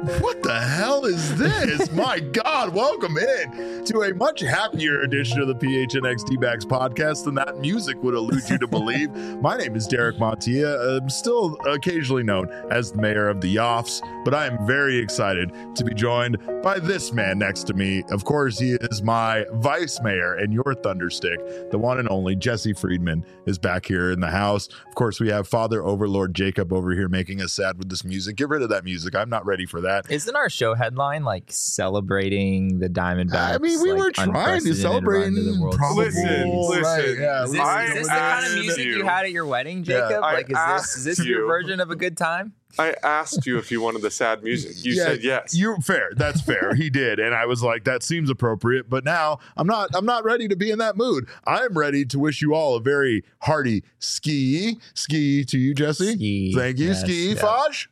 What the hell is this? My God, welcome in to a much happier edition of the PHNX D-Backs podcast than that music would allude you to believe. My name is Derek Montilla. I'm still occasionally known as the mayor of the Yoffs, but I am very excited to be joined by this man next to me. Of course, he is my vice mayor and your thunderstick. The one and only Jesse Friedman is back here in the house. Of course, we have Father Overlord Jacob over here making us sad with this music. Get rid of that music. I'm not ready for that. Isn't our show headline like celebrating the Diamondbacks? I mean, we were trying to celebrate. Listen. Right, yeah. Is this the kind of music you had at your wedding, Jacob? Yeah, like, is this your version of a good time? I asked you if you wanted the sad music. You said yes. You're fair. That's fair. He did, and I was like, that seems appropriate. But now I'm not ready to be in that mood. I'm ready to wish you all a very hearty ski to you, Jesse. Ski. Thank you, Yes, ski, yeah. Faj.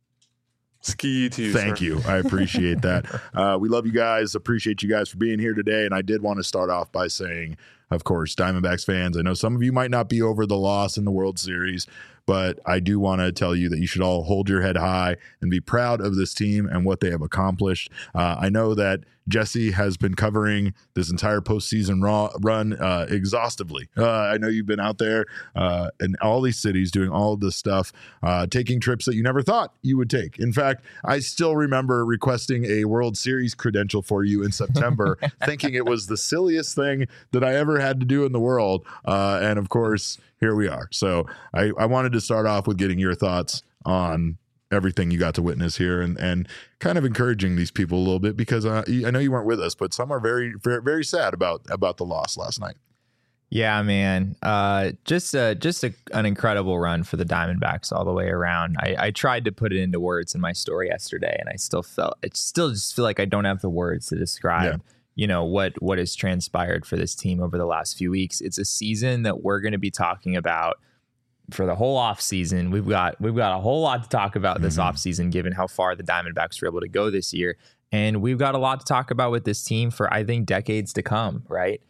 Ski to you, Thank sir. you. I appreciate that. We love you guys. Appreciate you guys for being here today. And I did want to start off by saying, of course, Diamondbacks fans, I know some of you might not be over the loss in the World Series, but I do want to tell you that you should all hold your head high and be proud of this team and what they have accomplished. I know that Jesse has been covering this entire postseason run exhaustively. I know you've been out there in all these cities doing all of this stuff, taking trips that you never thought you would take. In fact, I still remember requesting a World Series credential for you in September, thinking it was the silliest thing that I ever had to do in the world. And of course, here we are. So I wanted to start off with getting your thoughts on everything you got to witness here and kind of encouraging these people a little bit, because I know you weren't with us, but some are very, very, very sad about the loss last night. Yeah, man. Just an incredible run for the Diamondbacks all the way around. I tried to put it into words in my story yesterday, and I still just feel like I don't have the words to describe, what has transpired for this team over the last few weeks. It's a season that we're going to be talking about for the whole off season. We've got a whole lot to talk about this off season, given how far the Diamondbacks were able to go this year. And we've got a lot to talk about with this team for, I think, decades to come, right?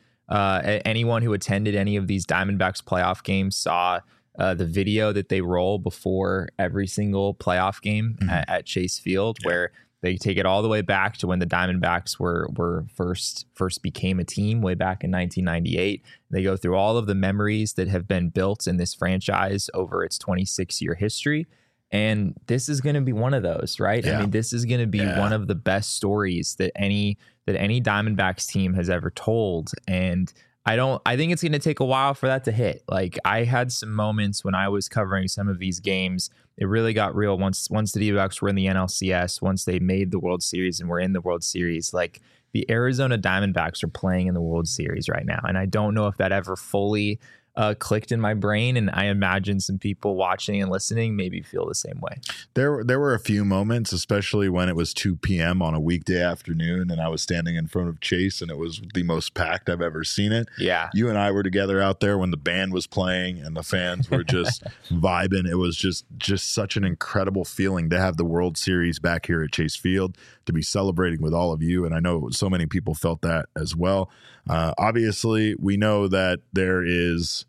Anyone who attended any of these Diamondbacks playoff games saw the video that they roll before every single playoff game at Chase Field, where they take it all the way back to when the Diamondbacks were first became a team way back in 1998. They go through all of the memories that have been built in this franchise over its 26-year history. And this is going to be one of those, right? Yeah. I mean, this is going to be one of the best stories that any Diamondbacks team has ever told. And I think it's going to take a while for that to hit. Like, I had some moments when I was covering some of these games. It really got real once the D-backs were in the NLCS, once they made the World Series and were in the World Series. Like, the Arizona Diamondbacks are playing in the World Series right now. And I don't know if that ever fully clicked in my brain, and I imagine some people watching and listening maybe feel the same way. There were a few moments, especially when it was 2 p.m. on a weekday afternoon and I was standing in front of Chase and it was the most packed I've ever seen it. Yeah. You and I were together out there when the band was playing and the fans were just vibing. It was just such an incredible feeling to have the World Series back here at Chase Field, to be celebrating with all of you. And I know so many people felt that as well. Obviously, we know that there is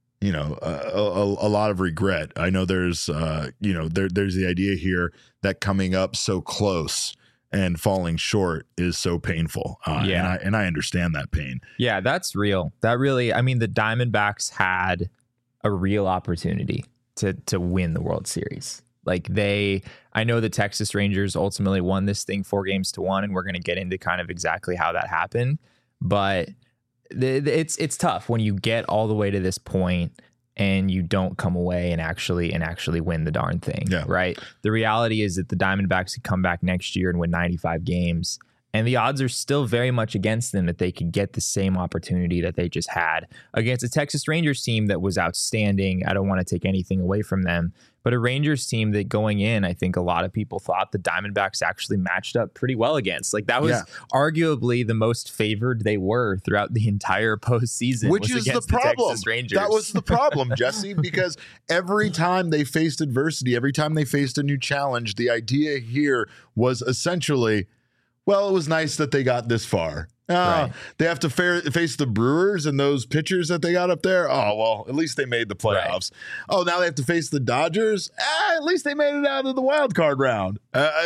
a lot of regret. I know there's there's the idea here that coming up so close and falling short is so painful. And I understand that pain. Yeah, that's real. That really, I mean, the Diamondbacks had a real opportunity to win the World Series. Like, I know the Texas Rangers ultimately won this thing 4-1, and we're going to get into kind of exactly how that happened. But it's tough when you get all the way to this point and you don't come away and actually win the darn thing. Yeah. Right. The reality is that the Diamondbacks could come back next year and win 95 games. And the odds are still very much against them that they could get the same opportunity that they just had against a Texas Rangers team that was outstanding. I don't want to take anything away from them, but a Rangers team that going in, I think a lot of people thought the Diamondbacks actually matched up pretty well against. Like, that was arguably the most favored they were throughout the entire postseason. Which is the problem. Texas Rangers. That was the problem, Jesse, because every time they faced adversity, every time they faced a new challenge, the idea here was essentially, well, it was nice that they got this far. Right. They have to face the Brewers and those pitchers that they got up there. Oh, well, at least they made the playoffs. Right. Oh, now they have to face the Dodgers. At least they made it out of the wild card round.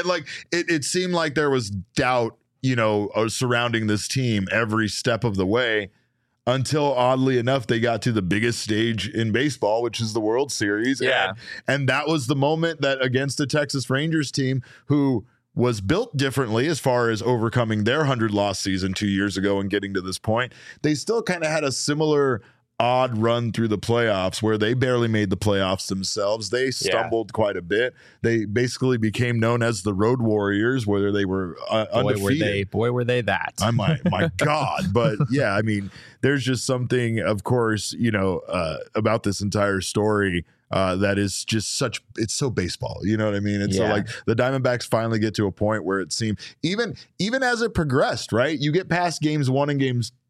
It seemed like there was doubt, surrounding this team every step of the way until, oddly enough, they got to the biggest stage in baseball, which is the World Series. Yeah. And that was the moment that against the Texas Rangers team, who was built differently as far as overcoming their 100-loss season 2 years ago and getting to this point. They still kind of had a similar odd run through the playoffs where they barely made the playoffs themselves. They stumbled quite a bit. They basically became known as the Road Warriors, where they were undefeated. Boy, were they that. My God. But yeah, I mean, there's just something, of course, about this entire story that is just it's so baseball, you know what I mean? And so like the Diamondbacks finally get to a point where it seemed even as it progressed, right? You get past game 1 and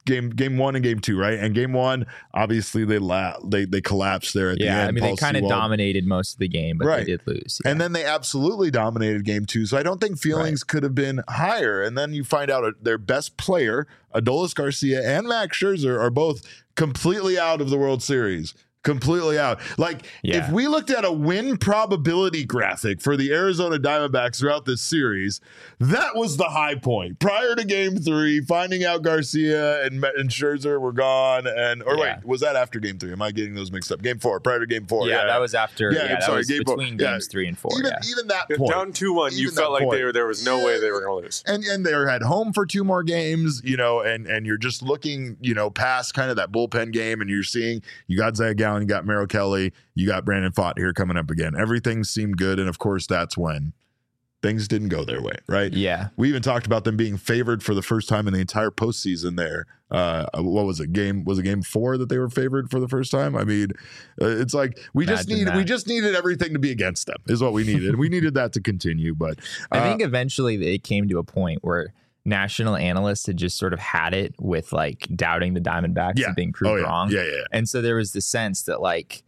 game 2, right? And game 1, obviously they collapsed there at the end. I mean, they kind of dominated most of the game, but they did lose. Yeah. And then they absolutely dominated game 2. So I don't think feelings could have been higher. And then you find out their best player, Adolis Garcia and Max Scherzer, are both completely out of the World Series. Completely out. If we looked at a win probability graphic for the Arizona Diamondbacks throughout this series, that was the high point. Prior to game 3, finding out Garcia and Scherzer were gone. Wait, was that after game 3? Am I getting those mixed up? Game 4, prior to game 4. Yeah, that was after. Yeah, that was between games 3 and 4. Even that point. Down 2-1, you felt like there was no way they were going to lose. And they were at home for 2 more games, and you're just looking, past kind of that bullpen game, and you're seeing you got Zach Gallen, you got Merrill Kelly, you got Brandon Pfaadt here coming up again. Everything seemed good, and of course, that's when things didn't go their way, right? Yeah. We even talked about them being favored for the first time in the entire postseason there. What was it? Game 4 that they were favored for the first time? I mean, it's like we just needed everything to be against them is what we needed. We needed that to continue, but I think eventually it came to a point where national analysts had just sort of had it with doubting the Diamondbacks and being proved wrong. Yeah. And so there was the sense that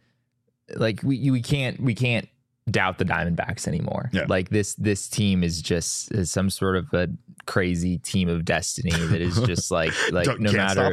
we can't doubt the Diamondbacks anymore. Yeah. This team is just some sort of a crazy team of destiny that is just no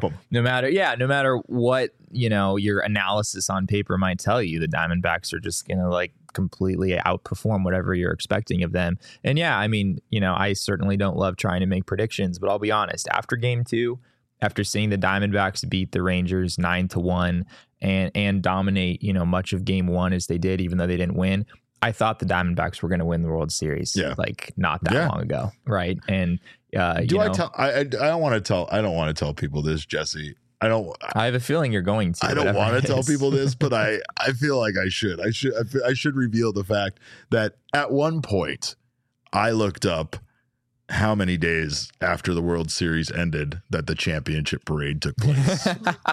matter what, your analysis on paper might tell you, the Diamondbacks are just going to completely outperform whatever you're expecting of them. And I mean, I certainly don't love trying to make predictions, but I'll be honest, after game 2, after seeing the Diamondbacks beat the Rangers 9-1 and dominate, much of game 1 as they did, even though they didn't win, I thought the Diamondbacks were going to win the World Series not that long ago. Right. And I don't want to tell people this, Jesse. I have a feeling you're going to. I don't want to tell people this, but I feel like I should. I should reveal the fact that at one point I looked up how many days after the World Series ended that the championship parade took place.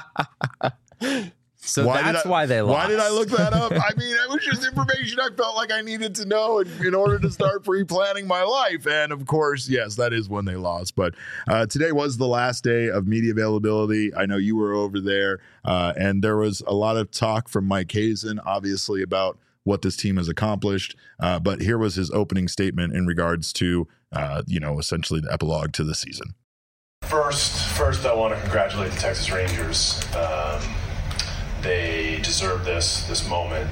So why they lost. Why did I look that up? I mean, it was just information I felt like I needed to know in order to start pre-planning my life. And of course, yes, that is when they lost. But today was the last day of media availability. I know you were over there, and there was a lot of talk from Mike Hazen, obviously, about what this team has accomplished. But here was his opening statement in regards to, essentially the epilogue to the season. First, I want to congratulate the Texas Rangers. They deserve this moment.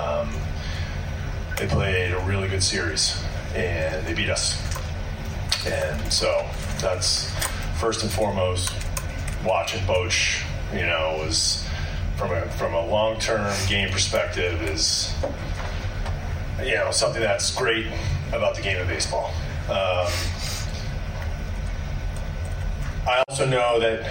They played a really good series, and they beat us. And so that's first and foremost. Watching Boch, was from a long-term game perspective is, something that's great about the game of baseball. I also know that,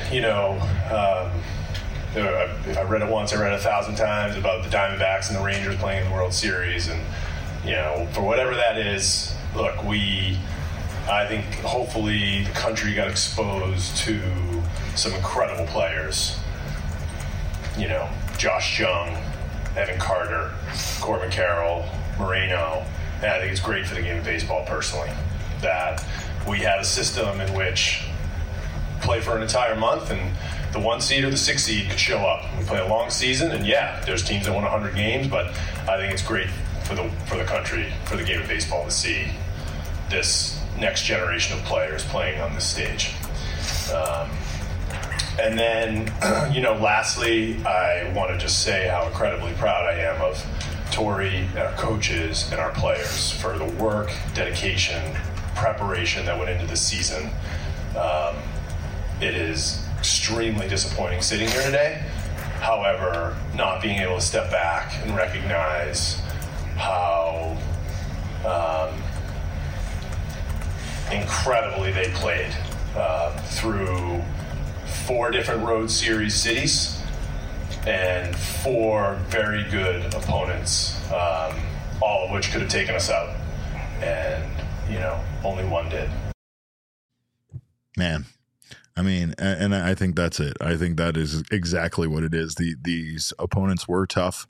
if I read it once, I read it 1,000 times about the Diamondbacks and the Rangers playing in the World Series. And, for whatever that is, look, I think hopefully the country got exposed to some incredible players. Josh Jung, Evan Carter, Corbin Carroll, Moreno. And I think it's great for the game of baseball personally that we have a system in which play for an entire month and the 1 seed or the 6 seed could show up. We play a long season, and there's teams that won 100 games, but I think it's great for the country, for the game of baseball to see this next generation of players playing on this stage. And then, lastly, I want to just say how incredibly proud I am of Tori and our coaches and our players for the work, dedication, preparation that went into this season. It is extremely disappointing sitting here today. However, not being able to step back and recognize how incredibly they played through 4 different Road Series cities and 4 very good opponents, all of which could have taken us out. And, only one did. Man. I mean, and I think that's it. I think that is exactly what it is. These opponents were tough.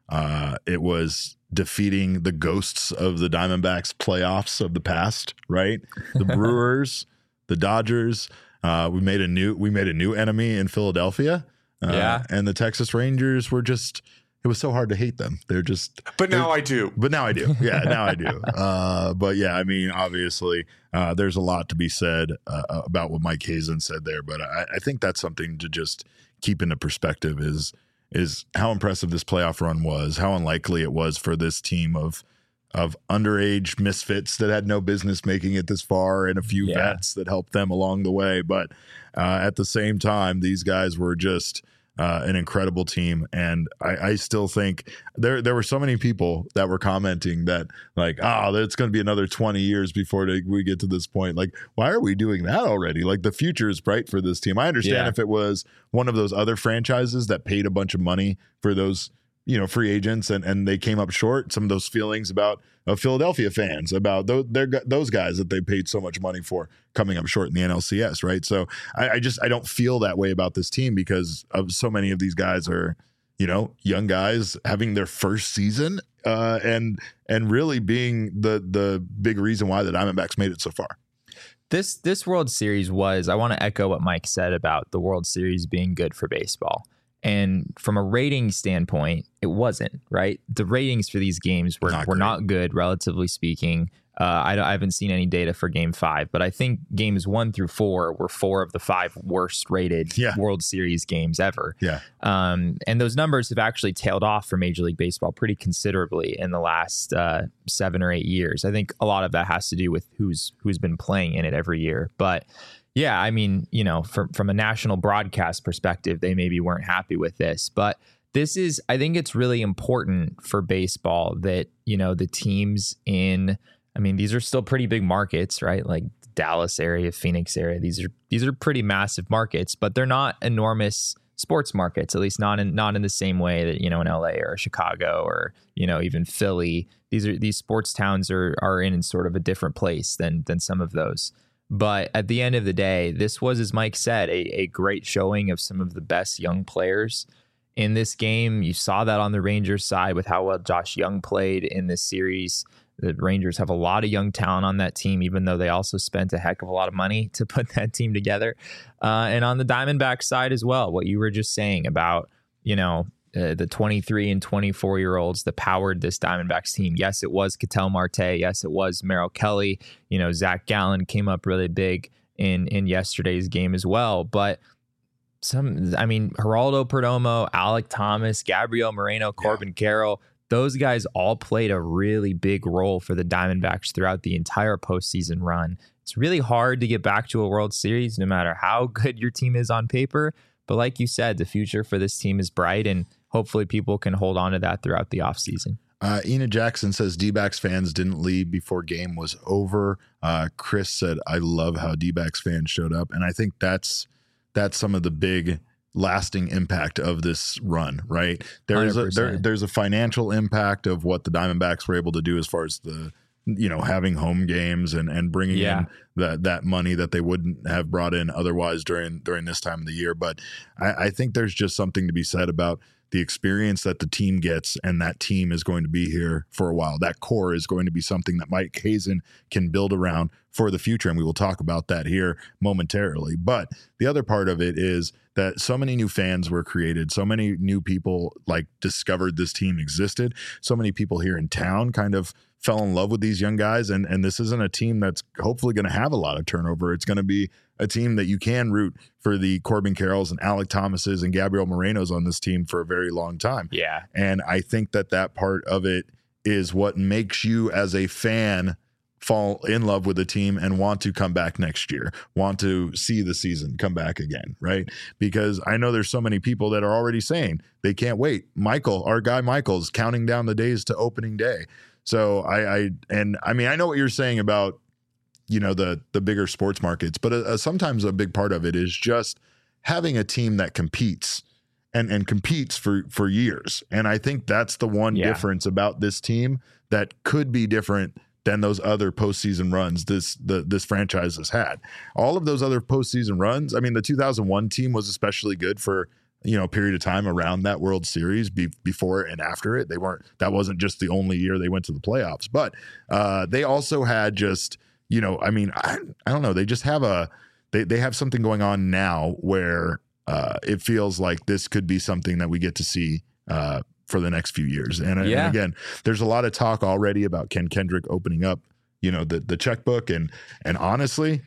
It was defeating the ghosts of the Diamondbacks playoffs of the past, right? The Brewers, the Dodgers. We made a new enemy in Philadelphia. And the Texas Rangers were just. It was so hard to hate them. But now I do. Yeah, now I do. But yeah, I mean, obviously, there's a lot to be said about what Mike Hazen said there. But I think that's something to just keep into perspective is how impressive this playoff run was, how unlikely it was for this team of underage misfits that had no business making it this far, and a few vets that helped them along the way. But at the same time, these guys were just an incredible team. And I still think there were so many people that were commenting that like, it's going to be another 20 years before we get to this point. Like, why are we doing that already? Like, the future is bright for this team. I understand if it was one of those other franchises that paid a bunch of money for those, free agents and they came up short, some of those feelings about Philadelphia fans about those guys that they paid so much money for coming up short in the NLCS, right? So I don't feel that way about this team because of so many of these guys are, young guys having their first season and really being the big reason why the Diamondbacks made it so far. This World Series I want to echo what Mike said about the World Series being good for baseball. And from a rating standpoint, it wasn't, right? The ratings for these games were not good, relatively speaking. I haven't seen any data for Game 5, but I think Games 1 through 4 were 4 of the 5 worst rated World Series games ever. Yeah. And those numbers have actually tailed off for Major League Baseball pretty considerably in the last 7 or 8 years. I think a lot of that has to do with who's been playing in it every year. But yeah, I mean, from a national broadcast perspective, they maybe weren't happy with this, but I think it's really important for baseball that, the teams these are still pretty big markets, right? Like Dallas area, Phoenix area. These are pretty massive markets, but they're not enormous sports markets, at least not in the same way that, in LA or Chicago or, even Philly. These sports towns are in sort of a different place than some of those. But at the end of the day, this was, as Mike said, a great showing of some of the best young players in this game. You saw that on the Rangers side with how well Josh Young played in this series. The Rangers have a lot of young talent on that team, even though they also spent a heck of a lot of money to put that team together. And on the Diamondback side as well, what you were just saying about, the 23 and 24-year-olds that powered this Diamondbacks team. Yes, it was Ketel Marte. Yes, it was Merrill Kelly. Zach Gallen came up really big in yesterday's game as well. But Geraldo Perdomo, Alek Thomas, Gabriel Moreno, Corbin Carroll, those guys all played a really big role for the Diamondbacks throughout the entire postseason run. It's really hard to get back to a World Series no matter how good your team is on paper. But like you said, the future for this team is bright, and hopefully people can hold on to that throughout the offseason. Ena Jackson says D-backs fans didn't leave before game was over. Chris said, I love how D-backs fans showed up. And I think that's some of the big lasting impact of this run, right? There's a financial impact of what the Diamondbacks were able to do as far as the having home games and bringing in that money that they wouldn't have brought in otherwise during this time of the year. But I think there's just something to be said about the experience that the team gets, and that team is going to be here for a while. That core is going to be something that Mike Hazen can build around for the future, and we will talk about that here momentarily. But the other part of it is that so many new fans were created, so many new people like discovered this team existed, so many people here in town kind of fell in love with these young guys, and this isn't a team that's hopefully going to have a lot of turnover. It's going to be a team that you can root for the Corbin Carrolls and Alec Thomases and Gabriel Morenos on this team for a very long time. Yeah. And I think that part of it is what makes you as a fan fall in love with the team and want to come back next year, want to see the season come back again, right? Because I know there's so many people that are already saying they can't wait. Michael, our guy Michael's counting down the days to opening day. So I know what you're saying about, you know, the bigger sports markets, but sometimes a big part of it is just having a team that competes and competes for years. And I think that's the one difference about this team that could be different than those other postseason runs this franchise has had. All of those other postseason runs, I mean, the 2001 team was especially good for, you know, a period of time around that World Series before and after it. That wasn't just the only year they went to the playoffs, but they also had just, you know, I mean, I don't know. They just have they have something going on now where it feels like this could be something that we get to see for the next few years. And again, there's a lot of talk already about Ken Kendrick opening up, you know, the checkbook, and honestly,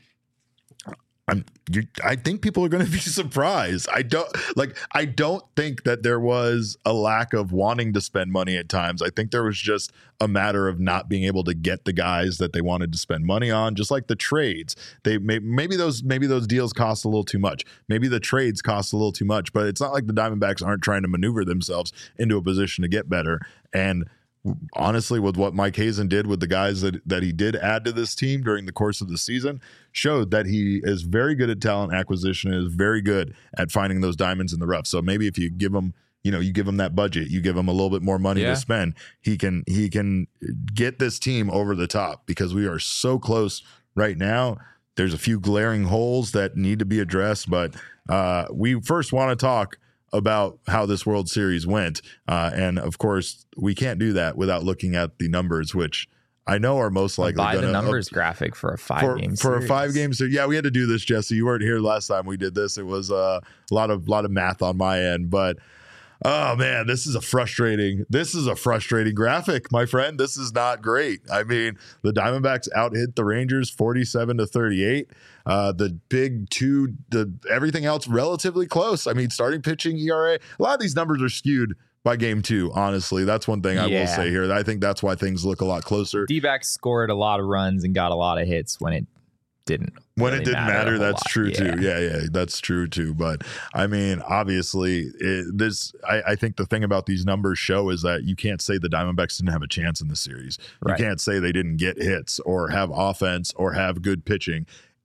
I think people are going to be surprised. I don't think that there was a lack of wanting to spend money at times. I think there was just a matter of not being able to get the guys that they wanted to spend money on, just like the trades. Maybe those deals cost a little too much. Maybe the trades cost a little too much, but it's not like the Diamondbacks aren't trying to maneuver themselves into a position to get better. And honestly, with what Mike Hazen did with the guys that he did add to this team during the course of the season, showed that he is very good at talent acquisition, is very good at finding those diamonds in the rough. So maybe if you give him, you know, you give him that budget, you give him a little bit more money to spend, he can get this team over the top, because we are so close right now. There's a few glaring holes that need to be addressed, but we first want to talk about how this World Series went. And of course, we can't do that without looking at the numbers, which I know are most likely buy the numbers graphic for a 5-game series. For a 5-game series. Yeah, we had to do this, Jesse. You weren't here last time we did this. It was a lot of math on my end, but oh man, this is a frustrating graphic, my friend. This is not great. I mean, the Diamondbacks out-hit the Rangers 47-38. The big two, everything else relatively close. I mean, starting pitching ERA, a lot of these numbers are skewed by game 2, honestly. That's one thing I will say here. I think that's why things look a lot closer. D-backs scored a lot of runs and got a lot of hits when it didn't. When it didn't matter, that's true too. Yeah, that's true too. But I mean, obviously, I think the thing about these numbers show is that you can't say the Diamondbacks didn't have a chance in the series. Right. You can't say they didn't get hits or have offense or have good pitching.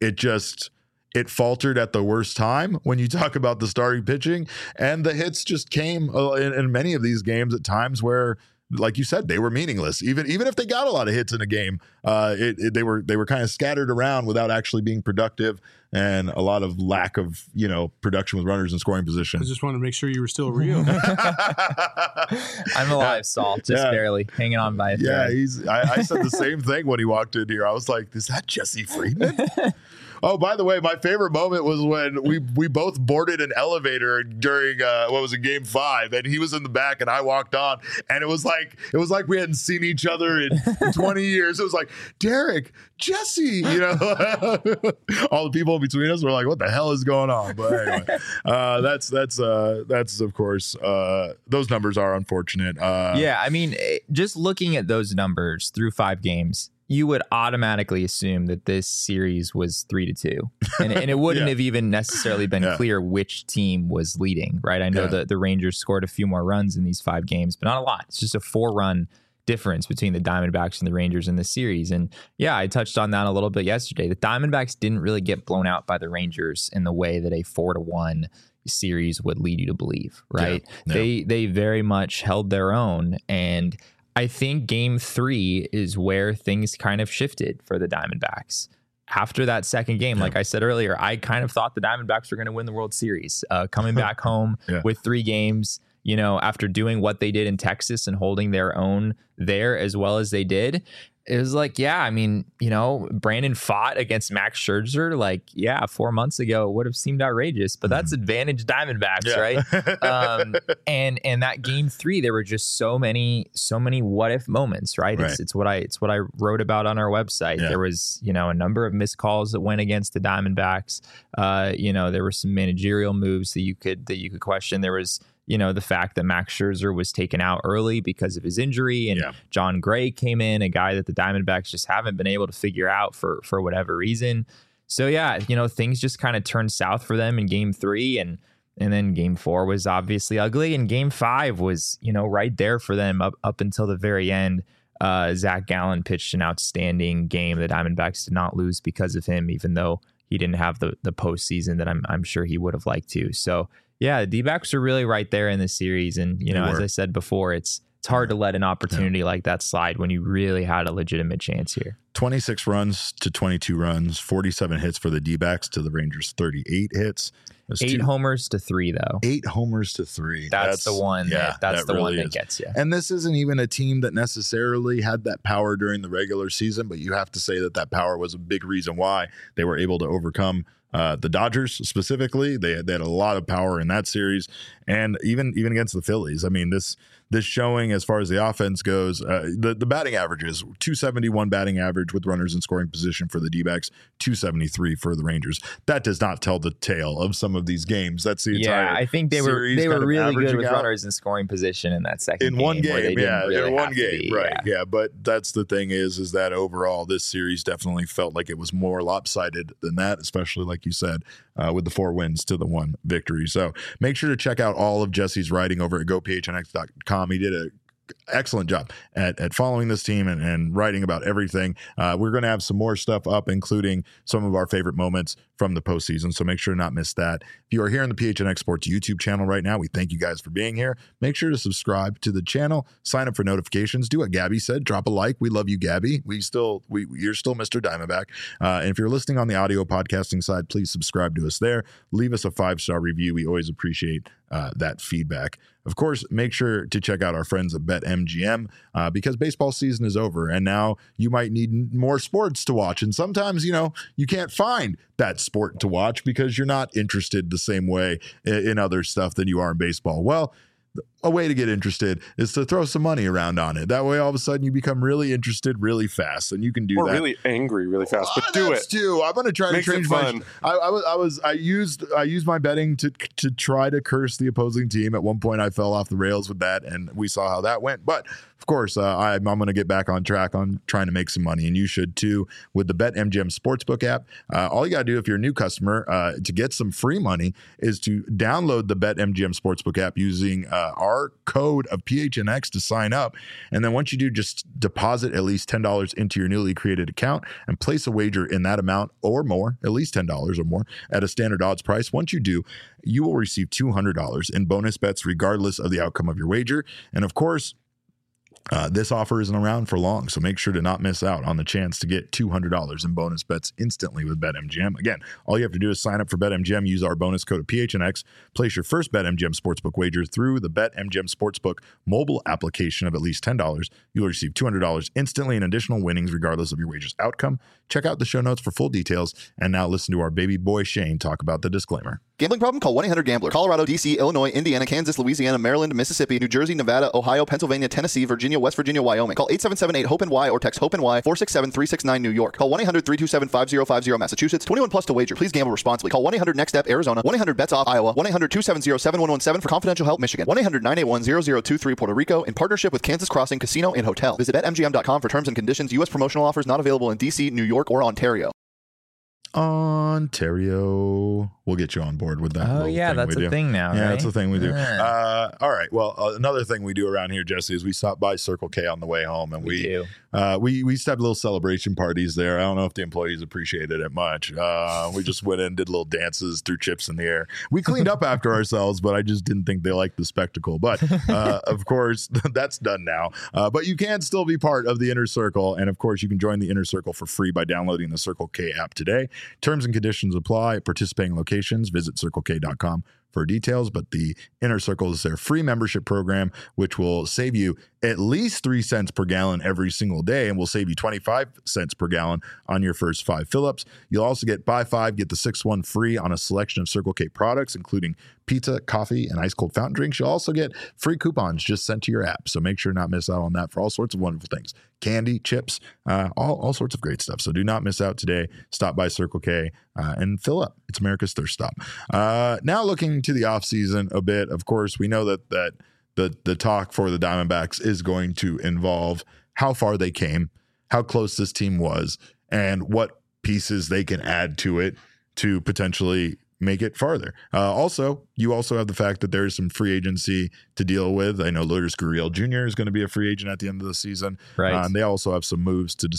It faltered at the worst time when you talk about the starting pitching, and the hits just came in many of these games at times where, like you said, they were meaningless. Even if they got a lot of hits in a game, they were kind of scattered around without actually being productive, and a lot of lack of, you know, production with runners in scoring position. I just wanted to make sure you were still real. I'm alive, Saul, just barely hanging on by a thread. Yeah, I said the same thing when he walked in here. I was like, "Is that Jesse Friedman?" Oh, by the way, my favorite moment was when we both boarded an elevator during Game 5, and he was in the back and I walked on, and it was like we hadn't seen each other in 20 years. It was like, Derek, Jesse, you know, all the people in between us were like, what the hell is going on? But anyway, that's of course, those numbers are unfortunate. Yeah, I mean, just looking at those numbers through 5 games, you would automatically assume that this series was 3-2, and it wouldn't have even necessarily been clear which team was leading, right? I know that the Rangers scored a few more runs in these 5 games, but not a lot. It's just a 4-run difference between the Diamondbacks and the Rangers in this series. And yeah, I touched on that a little bit yesterday. The Diamondbacks didn't really get blown out by the Rangers in the way that a 4-1 series would lead you to believe, right? They very much held their own, and I think game 3 is where things kind of shifted for the Diamondbacks. After that second game, like I said earlier, I kind of thought the Diamondbacks were going to win the World Series. Coming back home with 3 games, after doing what they did in Texas and holding their own there as well as they did, it was like, yeah, I mean, Brandon fought against Max Scherzer. Like, yeah, 4 months ago, it would have seemed outrageous, but that's advantage Diamondbacks, right? And that game 3, there were just so many what if moments, right? It's what I wrote about on our website. There was, a number of missed calls that went against the Diamondbacks. There were some managerial moves that you could question. There was, the fact that Max Scherzer was taken out early because of his injury, and John Gray came in, a guy that the Diamondbacks just haven't been able to figure out for whatever reason. So things just kind of turned south for them in game 3, and then game 4 was obviously ugly, and game 5 was, right there for them up until the very end. Zach Gallen pitched an outstanding game. The Diamondbacks did not lose because of him, even though he didn't have the postseason that I'm sure he would have liked to. So yeah, the D-backs are really right there in the series. And, as I said before, it's hard to let an opportunity like that slide when you really had a legitimate chance here. 26 runs to 22 runs, 47 hits for the D-backs to the Rangers 38 hits. 8 homers to 3, though. 8 homers to 3. That's the one. That's the one that gets you. And this isn't even a team that necessarily had that power during the regular season, but you have to say that power was a big reason why they were able to overcome the Dodgers specifically. They had a lot of power in that series, and even against the Phillies. I mean, this showing as far as the offense goes, the batting averages, 271 batting average with runners in scoring position for the D-backs, 273 for the Rangers. That does not tell the tale of some of these games. That's the entire I think they were really good with runners in scoring position in that second game. In one game, right. Yeah, but that's the thing is that overall this series definitely felt like it was more lopsided than that, especially like you said, with the 4 wins to the 1 victory. So make sure to check out all of Jesse's writing over at gophnx.com. He did an excellent job at following this team and writing about everything. We're going to have some more stuff up, including some of our favorite moments from the postseason. So make sure to not miss that. If you are here on the PHNX Sports YouTube channel right now, we thank you guys for being here. Make sure to subscribe to the channel, sign up for notifications, do what Gabby said, drop a like. We love you, Gabby. You're still Mr. Diamondback. And if you're listening on the audio podcasting side, please subscribe to us there. Leave us a 5-star review. We always appreciate that feedback. Of course, make sure to check out our friends at BetMGM because baseball season is over, and now you might need more sports to watch. And sometimes, you can't find that sport to watch because you're not interested the same way in other stuff than you are in baseball. Well, a way to get interested is to throw some money around on it. That way, all of a sudden, you become really interested really fast, and you can do that. Or really angry really fast, but do it. Too. I'm going to try to change my. I used my betting to try to curse the opposing team. At one point, I fell off the rails with that, and we saw how that went. But of course, I'm going to get back on track on trying to make some money, and you should too with the BetMGM Sportsbook app. All you got to do if you're a new customer to get some free money is to download the BetMGM Sportsbook app using our code of PHNX to sign up. And then once you do, just deposit at least $10 into your newly created account and place a wager in that amount or more, at least $10 or more at a standard odds price. Once you do, you will receive $200 in bonus bets regardless of the outcome of your wager. And of course, this offer isn't around for long, so make sure to not miss out on the chance to get $200 in bonus bets instantly with BetMGM. Again, all you have to do is sign up for BetMGM, use our bonus code of PHNX, place your first BetMGM Sportsbook wager through the BetMGM Sportsbook mobile application of at least $10. You'll receive $200 instantly in additional winnings regardless of your wager's outcome. Check out the show notes for full details, and now listen to our baby boy Shane talk about the disclaimer. Gambling problem? Call 1-800-GAMBLER. Colorado, D.C., Illinois, Indiana, Kansas, Louisiana, Maryland, Mississippi, New Jersey, Nevada, Ohio, Pennsylvania, Tennessee, Virginia, West Virginia, Wyoming. Call 877-8-HOPE-NY or text HOPE-NY 467-369 New York. Call 1-800-327-5050 Massachusetts. 21 plus to wager. Please gamble responsibly. Call 1-800-NEXT-STEP Arizona. 1-800-BETS-OFF Iowa. 1-800-270-7117 for confidential help Michigan. 1-800-981-0023 Puerto Rico in partnership with Kansas Crossing Casino and Hotel. Visit BetMGM.com for terms and conditions. U.S. promotional offers not available in D.C., New York, or Ontario. Ontario. We'll get you on board with that. Oh, yeah, that's a thing now. Yeah, right? that's a thing we do. All right. Well, another thing we do around here, Jesse, is we stop by Circle K on the way home, and we used to have little celebration parties there. I don't know if the employees appreciated it much. We just went in, did little dances, threw chips in the air. We cleaned up after ourselves, but I just didn't think they liked the spectacle. But of course, that's done now. But you can still be part of the Inner Circle, and of course, you can join the Inner Circle for free by downloading the Circle K app today. Terms and conditions apply. Participating locations, visit circlek.com for details, but the Inner Circle is their free membership program, which will save you at least 3 cents per gallon every single day and will save you 25 cents per gallon on your first 5 fill-ups. You'll also get buy 5, get the 6th one free on a selection of Circle K products, including pizza, coffee, and ice cold fountain drinks. You'll also get free coupons just sent to your app. So make sure not miss out on that for all sorts of wonderful things. Candy, chips, all sorts of great stuff. So do not miss out today. Stop by Circle K and fill up. It's America's thirst stop. Now looking to the offseason a bit, of course, we know that the talk for the Diamondbacks is going to involve how far they came, how close this team was, and what pieces they can add to it to potentially make it farther. You also have the fact that there's some free agency to deal with. I know Lourdes Gurriel Jr. is going to be a free agent at the end of the season. Right. And they also have some moves to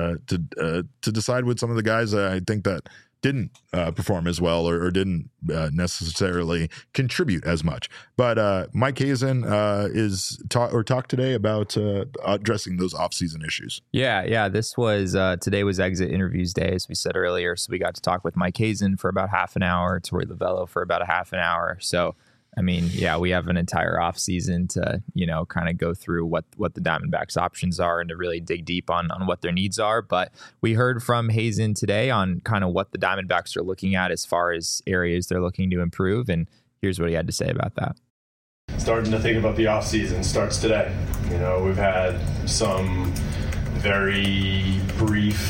decide with some of the guys that I think that didn't perform as well or didn't necessarily contribute as much. But Mike Hazen talked today about addressing those offseason issues. Yeah. This was today was exit interviews day, as we said earlier. So we got to talk with Mike Hazen for about half an hour, Torey Lovullo for about a half an hour. So I mean, yeah, we have an entire off season to, kind of go through what the Diamondbacks options are and to really dig deep on what their needs are. But we heard from Hazen today on kind of what the Diamondbacks are looking at as far as areas they're looking to improve. And here's what he had to say about that. Starting to think about the off season starts today. We've had some very brief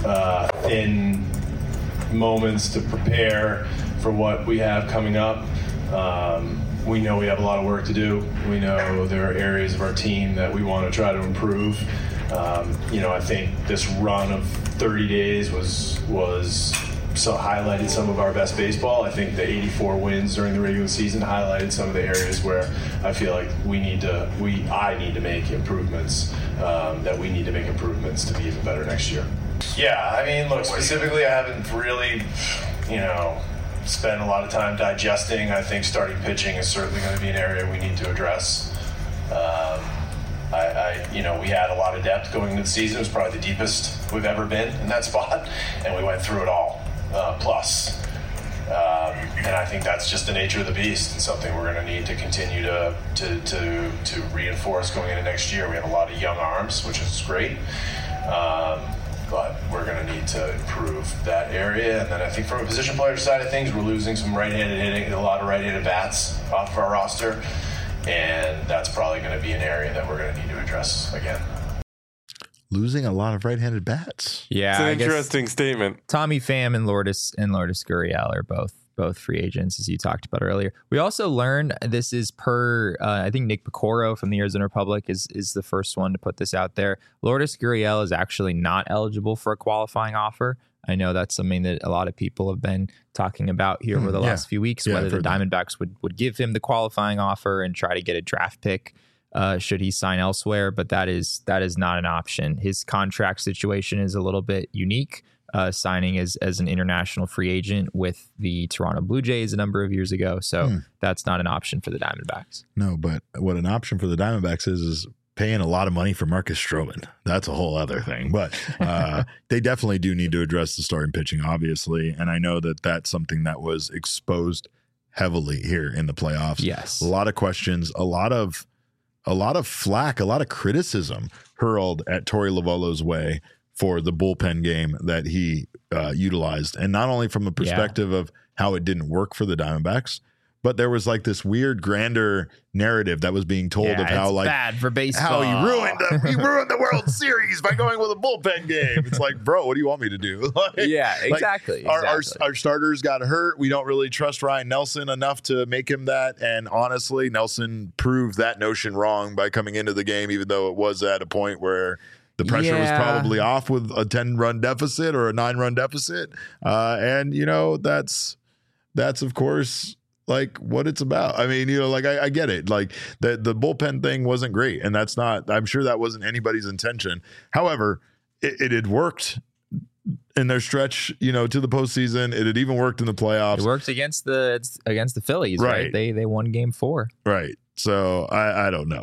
thin moments to prepare for what we have coming up. We know we have a lot of work to do. We know there are areas of our team that we want to try to improve. I think this run of 30 days was highlighted some of our best baseball. I think the 84 wins during the regular season highlighted some of the areas where I feel like I need to make improvements, that we need to make improvements to be even better next year. Yeah, I mean, look, specifically, I haven't really, spend a lot of time digesting. I think starting pitching is certainly going to be an area we need to address. We had a lot of depth going into the season. It was probably the deepest we've ever been in that spot, and we went through it all, plus. And I think that's just the nature of the beast and something we're going to need to continue to reinforce going into next year. We have a lot of young arms, which is great. But we're going to need to improve that area. And then I think from a position player side of things, we're losing some right-handed hitting, a lot of right-handed bats off of our roster. And that's probably going to be an area that we're going to need to address again. Losing a lot of right-handed bats. Yeah, it's an interesting statement. Tommy Pham and Lourdes Gurriel are both free agents, as you talked about earlier. We also learned this is per, I think Nick Picoro from the Arizona Republic is the first one to put this out there. Lourdes Gurriel is actually not eligible for a qualifying offer. I know that's something that a lot of people have been talking about here over the last few weeks, whether the Diamondbacks would give him the qualifying offer and try to get a draft pick should he sign elsewhere. But that is not an option. His contract situation is a little bit unique. Signing as an international free agent with the Toronto Blue Jays a number of years ago. So that's not an option for the Diamondbacks. No, but what an option for the Diamondbacks is paying a lot of money for Marcus Stroman. That's a whole other thing. But they definitely do need to address the starting pitching, obviously. And I know that that's something that was exposed heavily here in the playoffs. Yes. A lot of questions, a lot of flack, a lot of criticism hurled at Torey Lovullo's way for the bullpen game that he utilized. And not only from the perspective of how it didn't work for the Diamondbacks, but there was like this weird grander narrative that was being told of how like bad for baseball. How he ruined the World Series by going with a bullpen game. It's like, bro, what do you want me to do? Exactly. Our starters got hurt. We don't really trust Ryan Nelson enough to make him that. And honestly, Nelson proved that notion wrong by coming into the game, even though it was at a point where the pressure was probably off with a 10-run deficit or a 9-run deficit. And, that's of course, like what it's about. I mean, I get it. Like the bullpen thing wasn't great. And I'm sure that wasn't anybody's intention. However, it had worked in their stretch, to the postseason. It had even worked in the playoffs. It worked against the Phillies, right? They won Game 4. Right. So I don't know.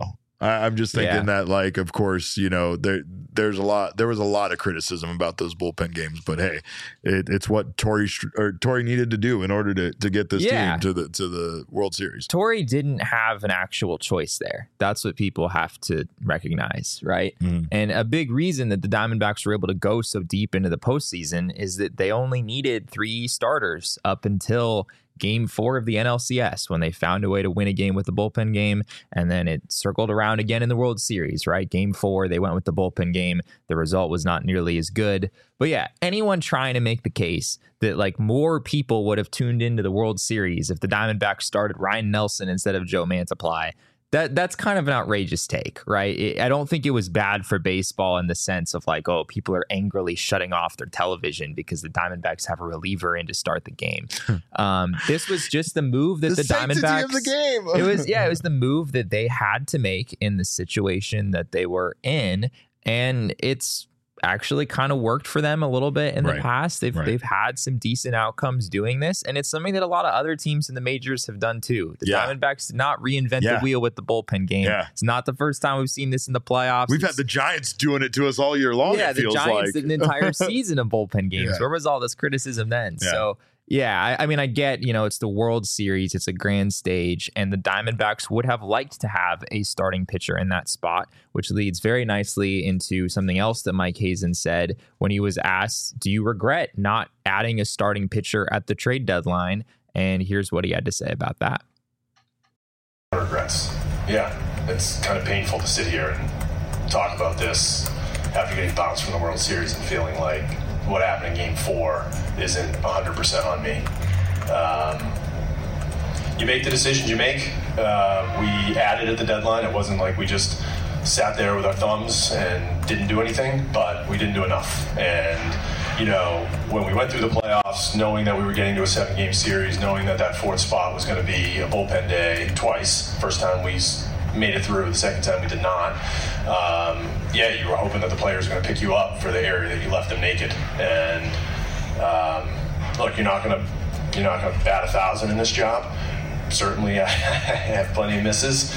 I'm just thinking that, like, of course, you know, there was a lot of criticism about those bullpen games, but hey, it's what Torrey needed to do in order to get this team to the World Series. Torrey didn't have an actual choice there. That's what people have to recognize, right? And a big reason that the Diamondbacks were able to go so deep into the postseason is that they only needed 3 starters up until Game 4 of the NLCS, when they found a way to win a game with the bullpen game, and then it circled around again in the World Series, right? Game 4, they went with the bullpen game. The result was not nearly as good. But yeah, anyone trying to make the case that like more people would have tuned into the World Series if the Diamondbacks started Ryan Nelson instead of Joe Mantiply, that's kind of an outrageous take, right? I don't think it was bad for baseball in the sense of like, oh, people are angrily shutting off their television because the Diamondbacks have a reliever in to start the game. This was just the move that the Diamondbacks of the game. It was the move that they had to make in the situation that they were in, and it's actually kind of worked for them a little bit in the past. They've had some decent outcomes doing this, and it's something that a lot of other teams in the majors have done too. The Diamondbacks did not reinvent the wheel with the bullpen game. It's not the first time we've seen this in the playoffs. We've had the Giants doing it to us all year long. Yeah, it the feels Giants like. did an entire season of bullpen games. Where was all this criticism then? So yeah, I mean, I get, you know, it's the World Series, it's a grand stage, and the Diamondbacks would have liked to have a starting pitcher in that spot, which leads very nicely into something else that Mike Hazen said when he was asked, do you regret not adding a starting pitcher at the trade deadline? And here's what he had to say about that. Regrets. Yeah, it's kind of painful to sit here and talk about this after getting bounced from the World Series and feeling like what happened in Game 4 isn't 100% on me. You make the decisions you make. We added at the deadline. It wasn't like we just sat there with our thumbs and didn't do anything, but we didn't do enough. And, you know, when we went through the playoffs, knowing that we were getting to a 7-game series, knowing that that 4th spot was going to be a bullpen day twice, first time we made it through, the second time we did not. You were hoping that the players were going to pick you up for the area that you left them naked. And look, you're not going to bat 1,000 in this job. Certainly, I have plenty of misses,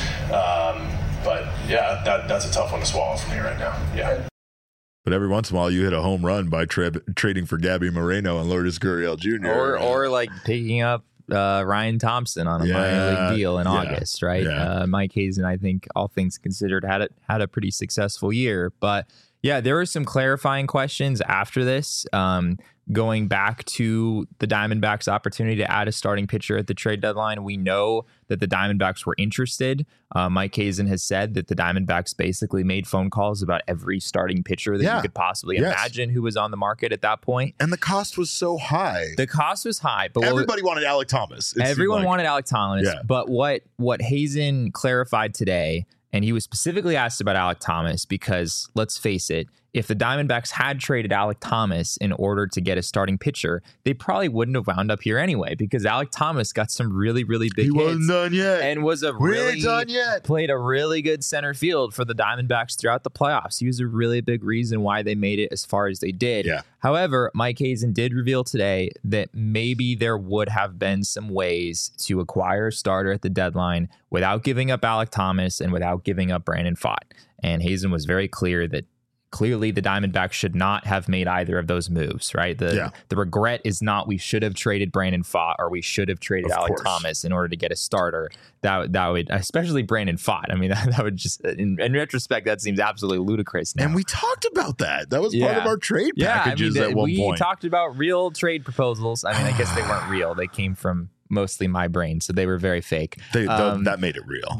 but yeah, that's a tough one to swallow for me right now. Yeah. But every once in a while, you hit a home run by trading for Gabby Moreno and Lourdes Gurriel Jr. Or like picking up Ryan Thompson on a minor league deal in August, right? Yeah. Mike Hazen, I think, all things considered, had a pretty successful year. But yeah, there were some clarifying questions after this. Going back to the Diamondbacks' opportunity to add a starting pitcher at the trade deadline, we know that the Diamondbacks were interested. Mike Hazen has said that the Diamondbacks basically made phone calls about every starting pitcher that you could possibly imagine who was on the market at that point. And the cost was so high. The cost was high, but everybody wanted Alek Thomas. Everyone wanted Alek Thomas, but what Hazen clarified today, and he was specifically asked about Alek Thomas because, let's face it, if the Diamondbacks had traded Alek Thomas in order to get a starting pitcher, they probably wouldn't have wound up here anyway, because Alek Thomas got some really, really big hits. He wasn't done yet. And was played a really good center field for the Diamondbacks throughout the playoffs. He was a really big reason why they made it as far as they did. Yeah. However, Mike Hazen did reveal today that maybe there would have been some ways to acquire a starter at the deadline without giving up Alek Thomas and without giving up Brandon Pfaadt. And Hazen was very clear that clearly the Diamondbacks should not have made either of those moves, right? The regret is not we should have traded Brandon Pfaadt or we should have traded Alek Thomas in order to get a starter. That would, especially Brandon Pfaadt. I mean, that would just, in retrospect, that seems absolutely ludicrous now. And we talked about that. That was part of our trade packages at one point. We talked about real trade proposals. I mean, I guess they weren't real. They came from mostly my brain, so they were very fake. That made it real.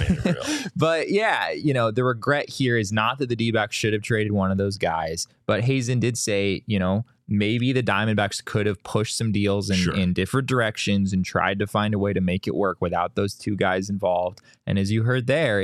But yeah, you know, the regret here is not that the D-backs should have traded one of those guys, but Hazen did say, you know, maybe the Diamondbacks could have pushed some deals in different directions and tried to find a way to make it work without those two guys involved. And as you heard there,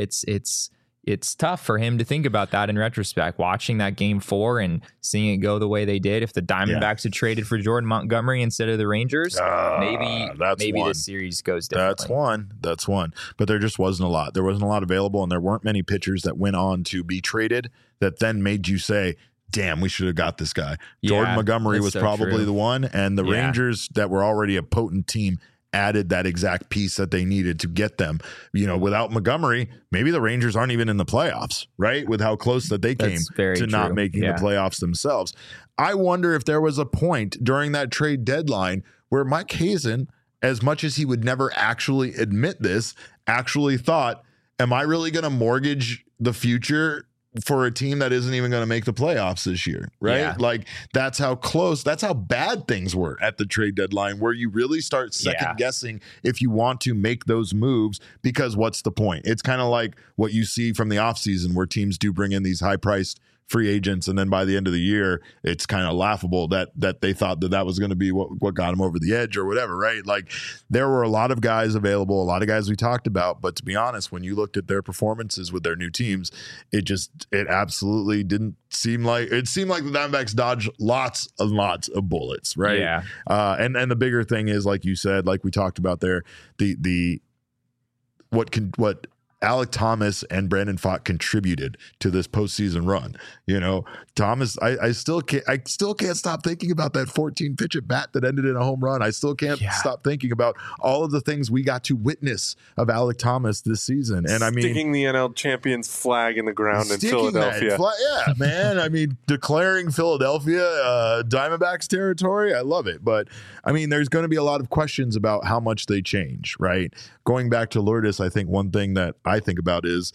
it's tough for him to think about that in retrospect, watching that Game 4 and seeing it go the way they did. If the Diamondbacks had traded for Jordan Montgomery instead of the Rangers, maybe this series goes differently. That's one. But there just wasn't a lot. There wasn't a lot available, and there weren't many pitchers that went on to be traded that then made you say, damn, we should have got this guy. Jordan Montgomery was probably the one, and the Rangers that were already a potent team added that exact piece that they needed to get them. Without Montgomery, maybe the Rangers aren't even in the playoffs, right? With how close that they came to not making the playoffs themselves. I wonder if there was a point during that trade deadline where Mike Hazen, as much as he would never actually admit this, actually thought, am I really going to mortgage the future for a team that isn't even going to make the playoffs this year, right? Yeah. Like, that's how close, that's how bad things were at the trade deadline, where you really start second guessing if you want to make those moves, because what's the point? It's kind of like what you see from the offseason, where teams do bring in these high-priced free agents, and then by the end of the year, it's kind of laughable that they thought that was going to be what got them over the edge or whatever, right? Like, there were a lot of guys available, a lot of guys we talked about, but to be honest, when you looked at their performances with their new teams, it absolutely didn't seem like the Diamondbacks dodged lots and lots of bullets, right? Yeah. And the bigger thing is, like you said, like we talked about there, what Alec Thomas and Brandon Pfaadt contributed to this postseason run. Thomas, I still can't stop thinking about that 14 pitch at bat that ended in a home run. I still can't stop thinking about all of the things we got to witness of Alec Thomas this season. And sticking the NL champions flag in the ground in Philadelphia. Yeah, man. Declaring Philadelphia Diamondbacks territory. I love it. But there's going to be a lot of questions about how much they change, right? Going back to Lourdes, I think one thing that I think about is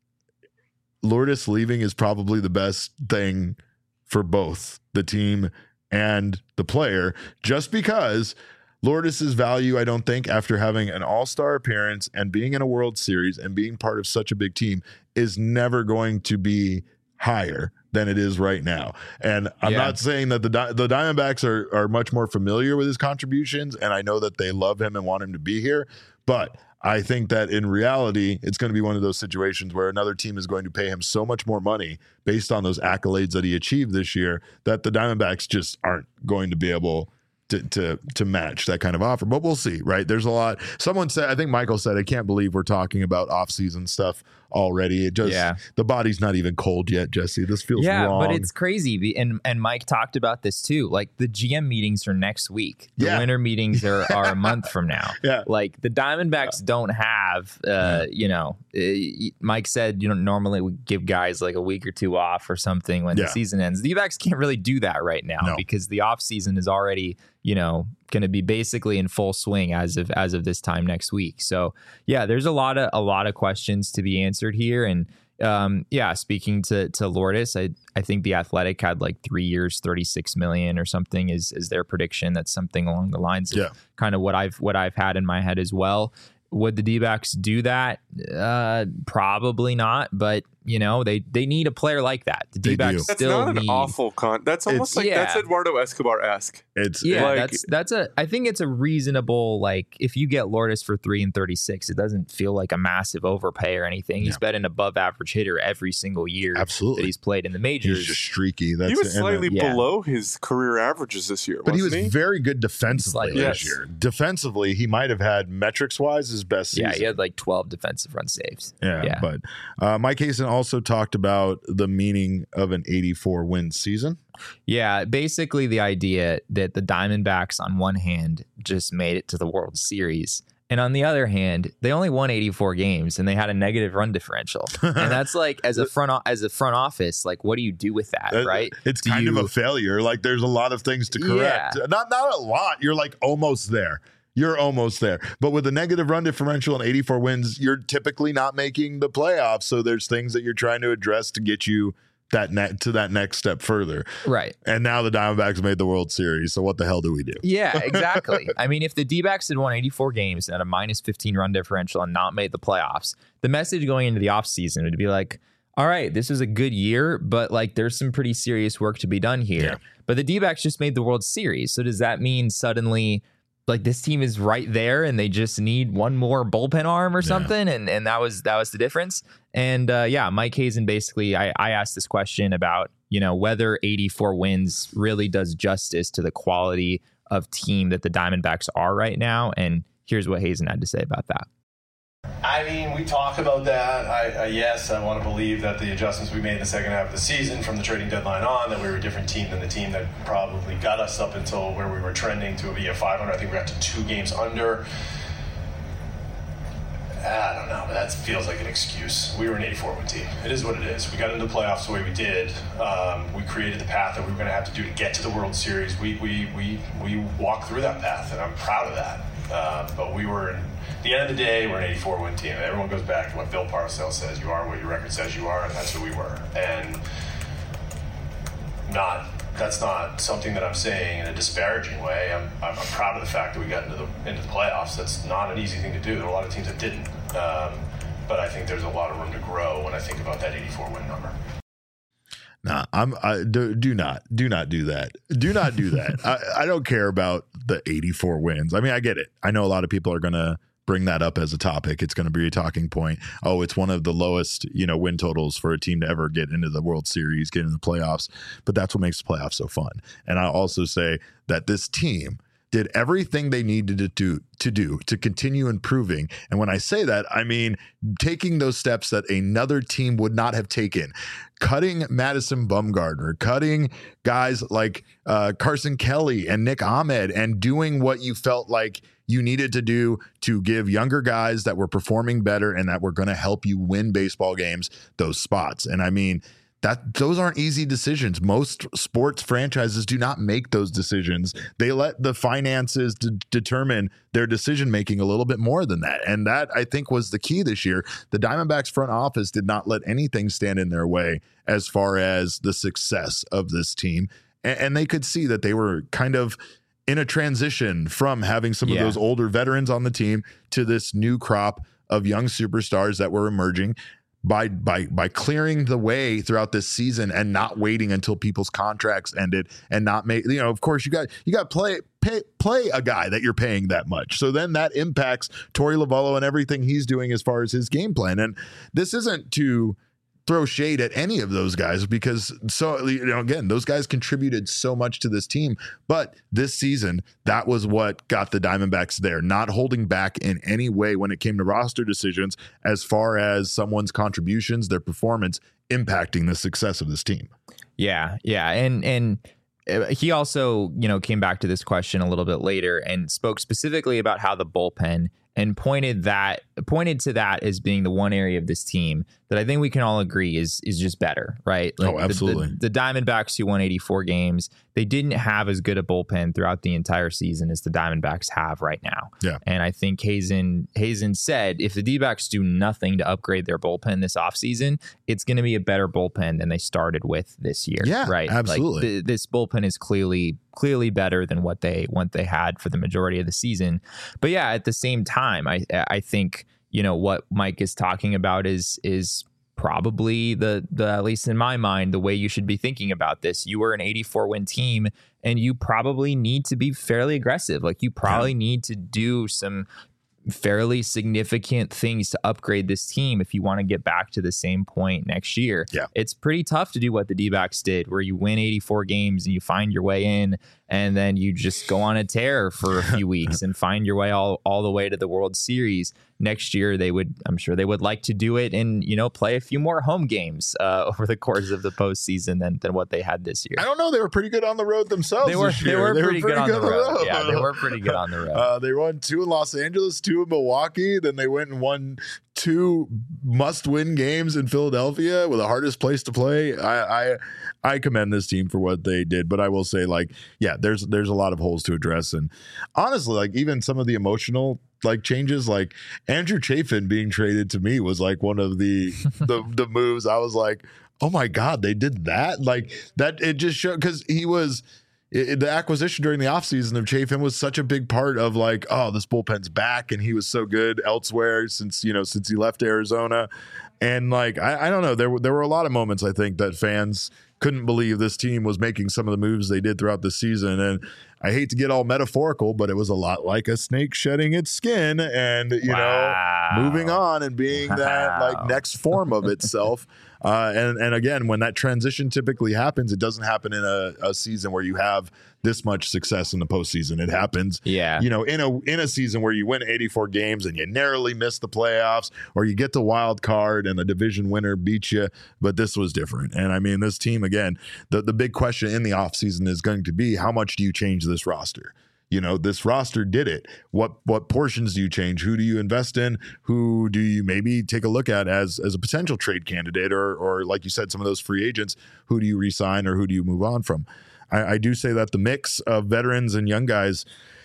Lourdes leaving is probably the best thing for both the team and the player, just because Lourdes' value, I don't think, after having an all-star appearance and being in a World Series and being part of such a big team, is never going to be higher than it is right now. And I'm not saying that the Diamondbacks are much more familiar with his contributions, and I know that they love him and want him to be here, but I think that in reality, it's going to be one of those situations where another team is going to pay him so much more money based on those accolades that he achieved this year, that the Diamondbacks just aren't going to be able to match that kind of offer. But we'll see, right? There's a lot. Someone said, I think Michael said, I can't believe we're talking about off-season stuff already. It just, the body's not even cold yet, Jesse. This feels wrong. But it's crazy. And Mike talked about this too. Like, the GM meetings are next week. The winter meetings are a month from now. Like, the Diamondbacks don't have, Mike said, normally we give guys like a week or two off or something when the season ends. The D-backs can't really do that right now because the off season is already, going to be basically in full swing as of this time next week. So there's a lot of questions to be answered here. And speaking to Lourdes, I think the Athletic had like 3 years, $36 million or something is their prediction. That's something along the lines of kind of what I've had in my head as well. Would the D-backs do that? Probably not, but they need a player like that. The D-backs that's still not an awful that's almost like that's Eduardo Escobar-esque. I think it's a reasonable, like, if you get Lourdes for 3 and 36, it doesn't feel like a massive overpay or anything. He's been an above average hitter every single year that he's played in the majors. He's just streaky. He was slightly below his career averages this year, but he was very good defensively this year. Defensively, he might have had, metrics wise, his best season. He had like 12 defensive run saves. But Mike Hazen also talked about the meaning of an 84 win season. Basically the idea that the Diamondbacks on one hand just made it to the World Series, and on the other hand, they only won 84 games and they had a negative run differential. And that's like, as a front office, like, what do you do with that, right? It's kind of a failure. Like, there's a lot of things to correct. Not a lot. You're like almost there. You're almost there. But with a negative run differential and 84 wins, you're typically not making the playoffs. So there's things that you're trying to address to get you to that next step further. Right. And now the Diamondbacks made the World Series. So what the hell do we do? Yeah, exactly. If the D-backs had won 84 games and a minus 15 run differential and not made the playoffs, the message going into the offseason would be like, all right, this was a good year, but like, there's some pretty serious work to be done here. But the D-backs just made the World Series. So does that mean suddenly, like, this team is right there and they just need one more bullpen arm or something? And that was the difference. And Mike Hazen, basically, I asked this question about, whether 84 wins really does justice to the quality of team that the Diamondbacks are right now. And here's what Hazen had to say about that. I mean, we talk about that. Yes, I want to believe that the adjustments we made in the second half of the season from the trading deadline on, that we were a different team than the team that probably got us up until where we were trending to be a 500. I think we got to 2 games under. I don't know, but that feels like an excuse. We were an 84-win team. It is what it is. We got into the playoffs the way we did. We created the path that we were going to have to do to get to the World Series. We walked through that path, and I'm proud of that. But we were, at the end of the day, we're an 84-win team. Everyone goes back to what Bill Parcells says: you are what your record says you are, and that's who we were. And that's not something that I'm saying in a disparaging way. I'm proud of the fact that we got into the playoffs. That's not an easy thing to do. There are a lot of teams that didn't. But I think there's a lot of room to grow when I think about that 84-win number. Nah, do not do that. Do not do that. I don't care about the 84 wins. I mean, I get it. I know a lot of people are going to bring that up as a topic. It's going to be a talking point. Oh, it's one of the lowest, win totals for a team to ever get into the World Series, get into the playoffs. But that's what makes the playoffs so fun. And I also say that this team did everything they needed to continue improving. And when I say that, I mean taking those steps that another team would not have taken. Cutting Madison Bumgarner, cutting guys like Carson Kelly and Nick Ahmed, and doing what you felt like you needed to do to give younger guys that were performing better and that were going to help you win baseball games those spots. And I mean, those aren't easy decisions. Most sports franchises do not make those decisions. They let the finances determine their decision making a little bit more than that. And that, I think, was the key this year. The Diamondbacks front office did not let anything stand in their way as far as the success of this team. And they could see that they were kind of in a transition from having some of those older veterans on the team to this new crop of young superstars that were emerging. By clearing the way throughout this season and not waiting until people's contracts ended and not make, of course you got play a guy that you're paying that much. So then that impacts Torey Lovullo and everything he's doing as far as his game plan. And this isn't to throw shade at any of those guys, because again, those guys contributed so much to this team. But this season, that was what got the Diamondbacks there, not holding back in any way when it came to roster decisions as far as someone's contributions, their performance impacting the success of this team. Yeah. And he also, came back to this question a little bit later and spoke specifically about how the bullpen, and pointed to that as being the one area of this team that I think we can all agree is just better, right? Like absolutely. The Diamondbacks, who won 84 games, they didn't have as good a bullpen throughout the entire season as the Diamondbacks have right now. Yeah. And I think Hazen said if the D-backs do nothing to upgrade their bullpen this offseason, it's going to be a better bullpen than they started with this year. Yeah, right. Absolutely. Like this bullpen is clearly better than what they had for the majority of the season. But yeah, at the same time, I think, what Mike is talking about is probably the at least in my mind, the way you should be thinking about this. You were an 84-win team, and you probably need to be fairly aggressive. Like, you probably need to do some fairly significant things to upgrade this team if you want to get back to the same point next year. Yeah. It's pretty tough to do what the D-backs did, where you win 84 games and you find your way in, and then you just go on a tear for a few weeks and find your way all the way to the World Series. Next year, I'm sure they would like to do it and, play a few more home games over the course of the postseason than what they had this year. I don't know. They were pretty good on the road themselves. They were pretty good on the road. Yeah, they were pretty good on the road. They won 2 in Los Angeles, 2 in Milwaukee. Then they went and won 2 must-win games in Philadelphia, with the hardest place to play. I commend this team for what they did, but I will say, there's a lot of holes to address. And honestly, even some of the emotional changes, like Andrew Chafin being traded, to me was one of the moves. I was like, oh my God, they did that. That it just showed, because he was the acquisition during the offseason of Chafin was such a big part of this bullpen's back, and he was so good elsewhere since he left Arizona. And I don't know, there were a lot of moments, I think, that fans couldn't believe this team was making some of the moves they did throughout the season. And I hate to get all metaphorical, but it was a lot like a snake shedding its skin and, you know, moving on and being that like next form of itself. And again, when that transition typically happens, it doesn't happen in a season where you have this much success in the postseason. It happens, you know, in a season where you win 84 games and you narrowly miss the playoffs, or you get the wild card and the division winner beats you. But this was different. And I mean, this team, again, the big question in the offseason is going to be, how much do you change this roster? You know, this roster did it. What portions do you change? Who do you invest in? Who do you maybe take a look at as a potential trade candidate, or like you said, some of those free agents? Who do you re-sign or who do you move on from? I do say that the mix of veterans and young guys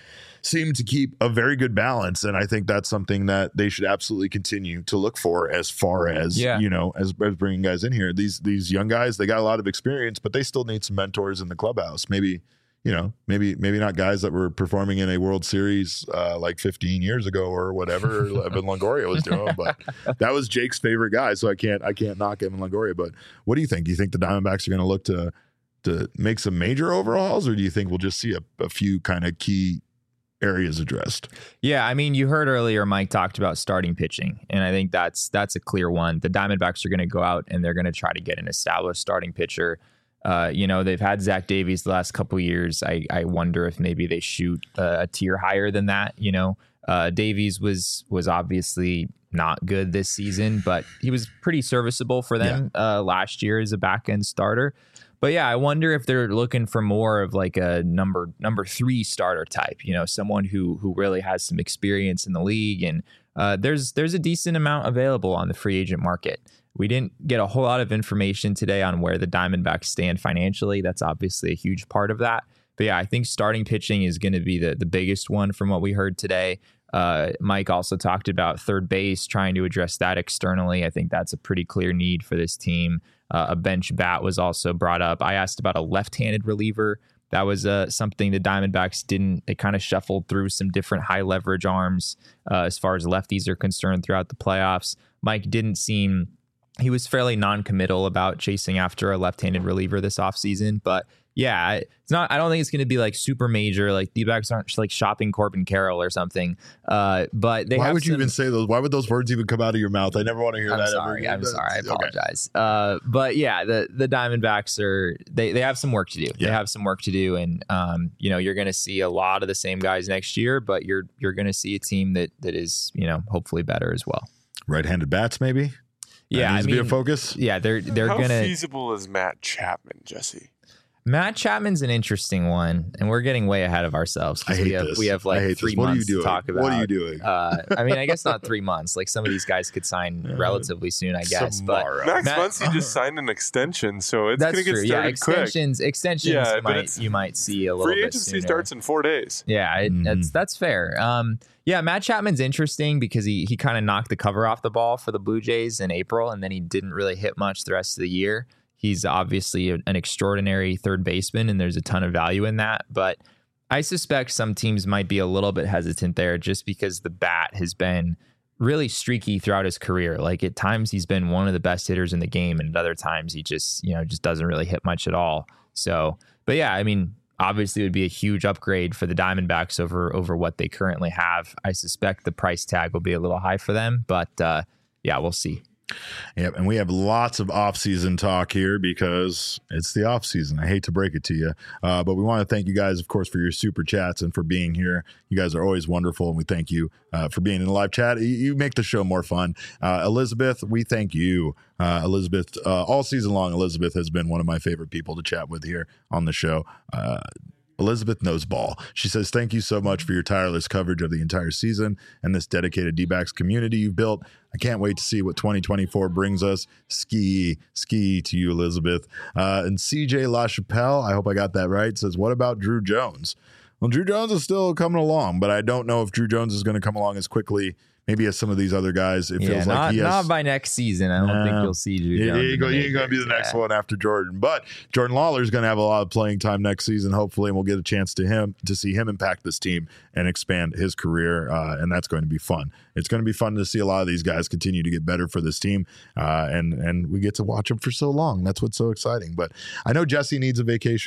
seem to keep a very good balance, and I think that's something that they should absolutely continue to look for as far as you know, as bringing guys in here. These young guys, they got a lot of experience, but they still need some mentors in the clubhouse. Maybe, you know, maybe not guys that were performing in a World Series like 15 years ago or whatever Evan Longoria was doing, but that was Jake's favorite guy, so I can't knock Evan Longoria. But what do you think? Do you think the Diamondbacks are going to look to make some major overhauls, or do you think we'll just see a few kind of key areas addressed? Yeah, I mean, you heard earlier Mike talked about starting pitching, and I think that's a clear one. The Diamondbacks are going to go out and they're going to try to get an established starting pitcher. You know, they've had Zach Davies the last couple of years. I wonder if maybe they shoot a tier higher than that. You know, Davies was obviously not good this season, but he was pretty serviceable for them last year as a back end starter. But yeah, I wonder if they're looking for more of like a number 3 starter type, you know, someone who really has some experience in the league. And there's a decent amount available on the free agent market. We didn't get a whole lot of information today on where the Diamondbacks stand financially. That's obviously a huge part of that. But yeah, I think starting pitching is going to be the biggest one from what we heard today. Mike also talked about third base, trying to address that externally. I think that's a pretty clear need for this team. A bench bat was also brought up. I asked about a left-handed reliever. That was something the Diamondbacks didn't. They kind of shuffled through some different high leverage arms as far as lefties are concerned throughout the playoffs. Mike didn't seem. He was fairly non-committal about chasing after a left-handed reliever this offseason, but yeah, it's not. I don't think it's going to be like super major. Like the backs aren't like shopping Corbin Carroll or something. But they. Why would you even say those? Why would those words even come out of your mouth? I never want to hear that. I'm sorry. I apologize. Okay. But yeah, the Diamondbacks are. They have some work to do. Yeah. They have some work to do, and you know, you're going to see a lot of the same guys next year, but you're going to see a team that is, you know, hopefully better as well. Right-handed bats, maybe. Yeah, that needs to be a focus. Yeah, they're How gonna. feasible is Matt Chapman, Jesse? Matt Chapman's an interesting one, and we're getting way ahead of ourselves. I hate this. We have like 3 months to talk about. What are you doing? I mean, I guess not 3 months. Like some of these guys could sign relatively soon, I guess. Tomorrow. But Max Muncy just signed an extension, so it's going to get started extensions. Yeah, you might see a little bit free agency sooner. starts in 4 days. Yeah, that's fair. Yeah, Matt Chapman's interesting because he kind of knocked the cover off the ball for the Blue Jays in April, and then he didn't really hit much the rest of the year. He's obviously an extraordinary third baseman, and there's a ton of value in that. But I suspect some teams might be a little bit hesitant there just because the bat has been really streaky throughout his career. Like at times he's been one of the best hitters in the game, and at other times he just doesn't really hit much at all. So, but yeah, I mean, obviously it would be a huge upgrade for the Diamondbacks over what they currently have. I suspect the price tag will be a little high for them, but yeah, we'll see. Yep, and we have lots of off-season talk here because it's the off-season. I hate to break it to you, but we want to thank you guys, of course, for your super chats and for being here. You guys are always wonderful, and we thank you for being in the live chat. You make the show more fun. Elizabeth, we thank you. Elizabeth, all season long, Elizabeth has been one of my favorite people to chat with here on the show. Elizabeth knows ball. She says, thank you so much for your tireless coverage of the entire season and this dedicated D-backs community you've built. I can't wait to see what 2024 brings us. Ski to you, Elizabeth. And CJ LaChapelle, I hope I got that right, says, what about Drew Jones? Well, Drew Jones is still coming along, but I don't know if Drew Jones is going to come along as quickly maybe as some of these other guys. It feels like he has. Not by next season. I don't think you'll see Drew Jones. He ain't going to be the next one after Jordan. But Jordan Lawler is going to have a lot of playing time next season, hopefully, and we'll get a chance to see him impact this team and expand his career, and that's going to be fun. It's going to be fun to see a lot of these guys continue to get better for this team, and we get to watch them for so long. That's what's so exciting. But I know Jesse needs a vacation.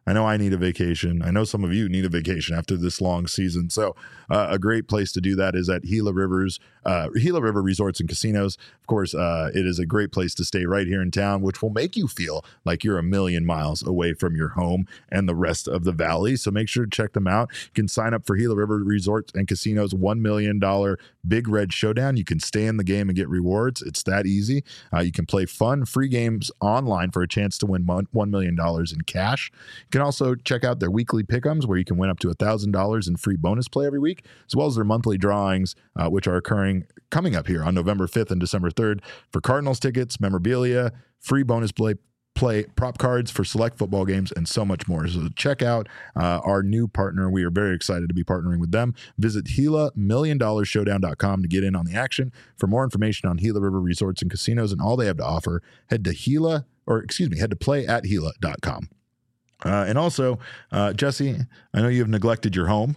I know I need a vacation. I know some of you need a vacation after this long season. So a great place to do that is at Gila River Resorts and Casinos. Of course, it is a great place to stay right here in town, which will make you feel like you're a million miles away from your home and the rest of the valley. So make sure to check them out. You can sign up for Gila River Resorts and Casinos $1 million Big Red Showdown. You can stay in the game and get rewards. It's that easy. You can play fun, free games online for a chance to win $1 million in cash. You can also check out their weekly pick'ems where you can win up to $1,000 in free bonus play every week, as well as their monthly drawings, which are coming up here on November 5th and December 3rd for Cardinals tickets, memorabilia, free bonus play, prop cards for select football games, and so much more. So check out our new partner. We are very excited to be partnering with them. Visit GilaMillionDollarShowdown.com to get in on the action. For more information on Gila River Resorts and Casinos and all they have to offer, head to playatgila.com. And also, Jesse, I know you have neglected your home.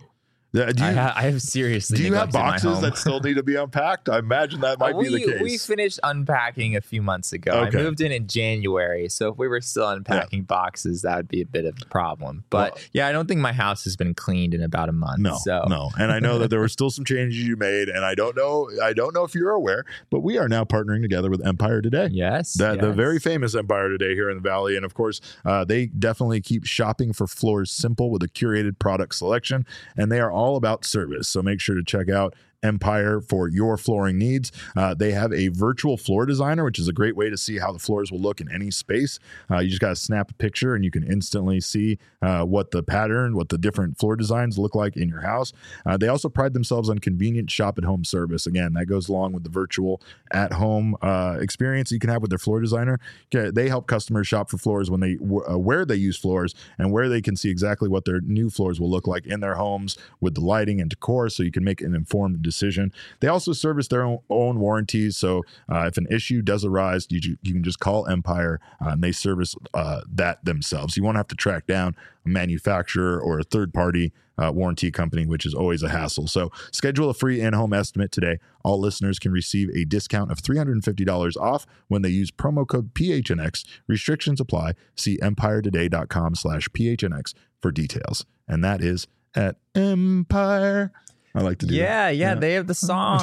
I have seriously. Do you have neglected boxes that still need to be unpacked? I imagine that might be the case. We finished unpacking a few months ago. Okay. I moved in January, so if we were still unpacking boxes, that would be a bit of a problem. But I don't think my house has been cleaned in about a month. No. And I know that there were still some changes you made, and I don't know if you're aware, but we are now partnering together with Empire Today. Yes. The very famous Empire Today here in the Valley. And of course, they definitely keep shopping for floors simple with a curated product selection, and they are all about service. So make sure to check out Empire for your flooring needs. They have a virtual floor designer, which is a great way to see how the floors will look in any space. You just got to snap a picture and you can instantly see what the pattern, what the different floor designs look like in your house. They also pride themselves on convenient shop at home service. Again, that goes along with the virtual at home experience you can have with their floor designer. They help customers shop for floors when where they use floors and where they can see exactly what their new floors will look like in their homes with the lighting and decor, so you can make an informed decision. They also service their own warranties, so if an issue does arise, you can just call Empire and they service that themselves. You won't have to track down a manufacturer or a third-party warranty company, which is always a hassle. So schedule a free in-home estimate today. All listeners can receive a discount of $350 off when they use promo code PHNX. Restrictions apply. See empiretoday.com/PHNX for details. And that is at Empire. I like to do that. Yeah, they have the song.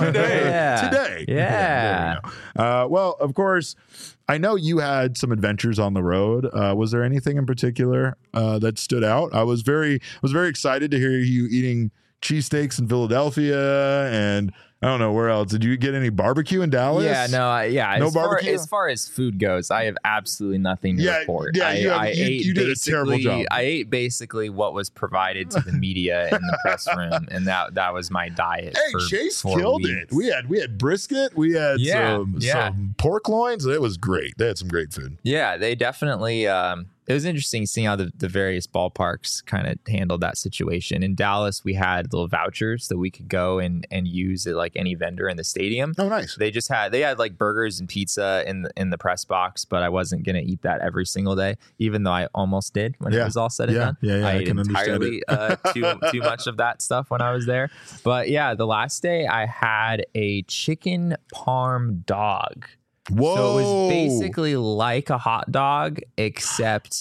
Today. Yeah. Well, of course, I know you had some adventures on the road. Was there anything in particular that stood out? I was very excited to hear you eating cheesesteaks in Philadelphia, and I don't know where else. Did you get any barbecue in Dallas? Yeah, no barbecue. As far as food goes, I have absolutely nothing to report. Yeah, you did a terrible job. I ate basically what was provided to the media in the press room, and that was my diet. Hey, Chase killed it. We had brisket. We had some pork loins. It was great. They had some great food. Yeah, they definitely. It was interesting seeing how the various ballparks kind of handled that situation. In Dallas, we had little vouchers that we could go and use at like any vendor in the stadium. Oh, nice. They had like burgers and pizza in the press box, but I wasn't going to eat that every single day, even though I almost did when it was all said and done. Yeah, I ate entirely too much of that stuff when I was there. But yeah, the last day I had a chicken parm dog. Whoa. So it was basically like a hot dog, except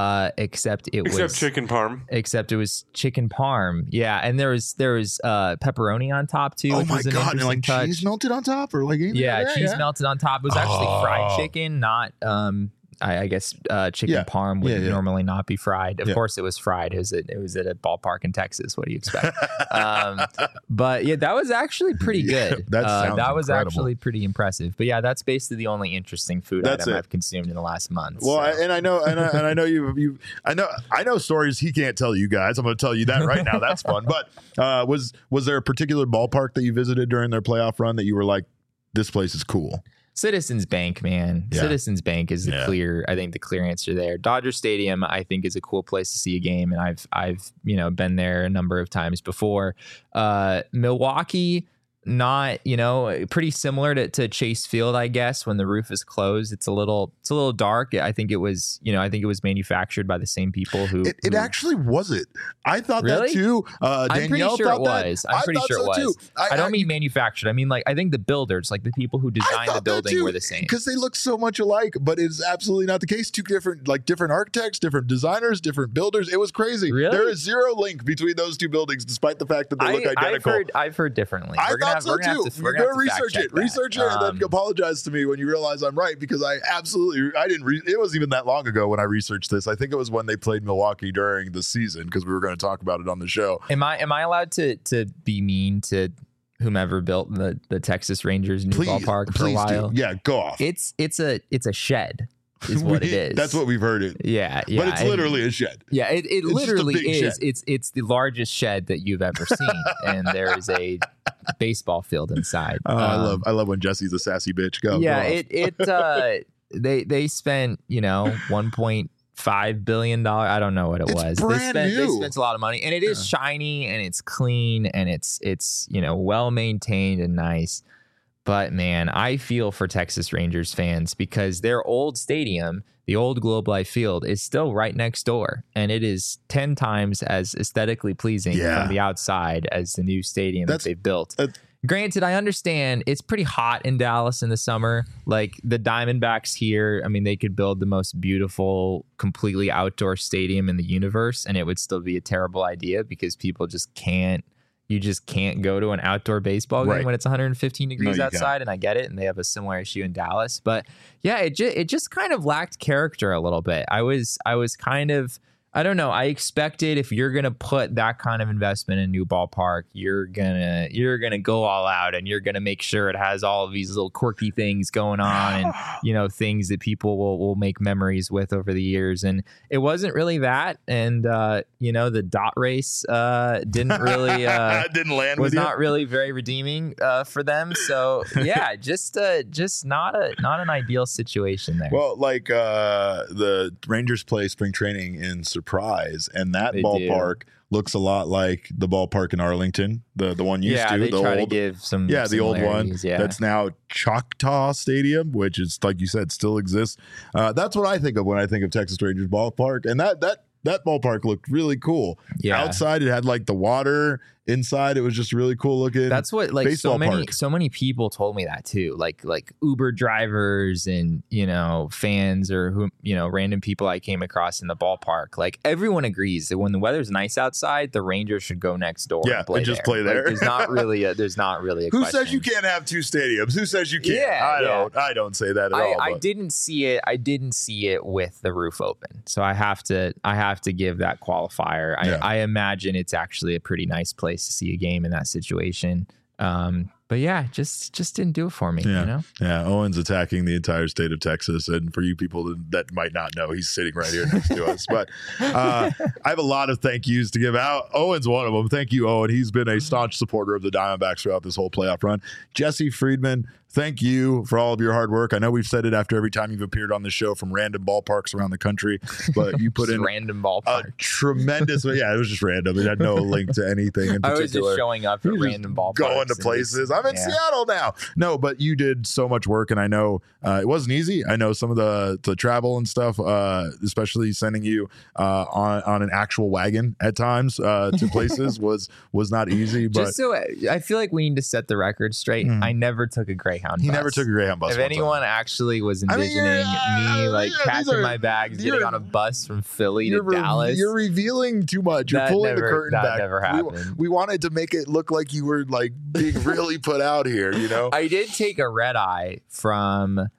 it was chicken parm. Except it was chicken parm. Yeah, and there was pepperoni on top too. Oh which my was an god! And like touch. cheese melted on top, or like cheese melted on top. It was actually fried chicken, not I guess chicken parm would normally not be fried. Of course, it was fried. It was at a ballpark in Texas. What do you expect? But yeah, that was actually pretty good. That was actually pretty impressive. But yeah, that's basically the only interesting food item I've consumed in the last month. Well, and I know, I know I know stories he can't tell you guys. I'm going to tell you that right now. That's fun. But was there a particular ballpark that you visited during their playoff run that you were like, this place is cool? Citizens Bank, man. Yeah. Citizens Bank is the clear answer there. Dodger Stadium, I think, is a cool place to see a game, and I've been there a number of times before. Milwaukee, not, pretty similar to Chase Field, I guess. When the roof is closed, it's a little dark. I think it was manufactured by the same people who. It actually wasn't. I thought Really? that too. I'm Danielle pretty sure thought it was. that. I'm pretty sure it so was. too. I don't mean manufactured. I mean, like, I think the builders, like the people who designed the building, were the same. Because they look so much alike, but it's absolutely not the case. Two different architects, different designers, different builders. It was crazy. Really? There is zero link between those two buildings, despite the fact that they look identical. I've heard differently. I thought so too. You're going to research it. Research it and then apologize to me when you realize I'm right, because I didn't. It wasn't even that long ago when I researched this. I think it was when they played Milwaukee during the season, because we were going to talk about it on the show. Am I allowed to be mean to whomever built the Texas Rangers new ballpark for a while? Yeah, go off. It's a shed. Is what it is. That's what we've heard it. Yeah. But it's literally a shed. Yeah, it literally is. Shed. It's the largest shed that you've ever seen, and there is a baseball field inside. I love when Jesse's a sassy bitch. Go. They spent $1.5 billion. I don't know what it was. They spent a lot of money, and it is shiny and it's clean and it's well maintained and nice. But man, I feel for Texas Rangers fans because their old stadium, the old Globe Life Field, is still right next door, and it is 10 times as aesthetically pleasing from the outside as the new stadium that they've built. Granted, I understand it's pretty hot in Dallas in the summer. Like the Diamondbacks here, I mean, they could build the most beautiful, completely outdoor stadium in the universe, and it would still be a terrible idea because people just can't. You just can't go to an outdoor baseball game when it's 115 degrees outside, and I get it, and they have a similar issue in Dallas. But yeah, it just kind of lacked character a little bit. I was kind of, I don't know. I expected if you're gonna put that kind of investment in a new ballpark, you're gonna go all out, and you're gonna make sure it has all of these little quirky things going on, and things that people will make memories with over the years. And it wasn't really that. And the dot race didn't really didn't land. Was not really very redeeming for them. So yeah, just not an ideal situation there. Well, like the Rangers play spring training in Surprise, and that ballpark looks a lot like the ballpark in Arlington, the one used to. They try to give some the old one that's now Choctaw Stadium, which is, like you said, still exists. That's what I think of when I think of Texas Rangers ballpark, and that ballpark looked really cool. Yeah. Outside, it had like the water. Inside, it was just really cool looking. That's what so many people told me that too. Like Uber drivers and fans or who random people I came across in the ballpark. Like everyone agrees that when the weather's nice outside, the Rangers should go next door. Yeah, and just play there. Like, there's not really a Who question. says you can't have two stadiums? Who says you can't? Yeah, I don't say that at all. I didn't see it. I didn't see it with the roof open, so I have to give that qualifier. I imagine it's actually a pretty nice place to see a game in that situation. But yeah, just didn't do it for me. Yeah. Owen's attacking the entire state of Texas, and for you people that might not know, he's sitting right here next to us. But I have a lot of thank yous to give out. Owen's one of them. Thank you, Owen. He's been a staunch supporter of the Diamondbacks throughout this whole playoff run. Jesse Friedman, thank you for all of your hard work. I know we've said it after every time you've appeared on the show from random ballparks around the country, but you put in random ballpark. Tremendous. Yeah, it was just random. It had no link to anything in particular. I was just showing up at random ballparks. Going to places. I'm in Seattle now. No, but you did so much work, and I know it wasn't easy. I know some of the travel and stuff, especially sending you on an actual wagon at times to places was not easy. But just so I feel like we need to set the record straight. I never took a Greyhound bus. He never took a Greyhound bus. If anyone actually was envisioning me packing my bags, getting on a bus from Philly to Dallas, you're revealing too much. You're pulling the curtain back. That never happened. We wanted to make it look like you were like being really put out here. I did take a red eye from.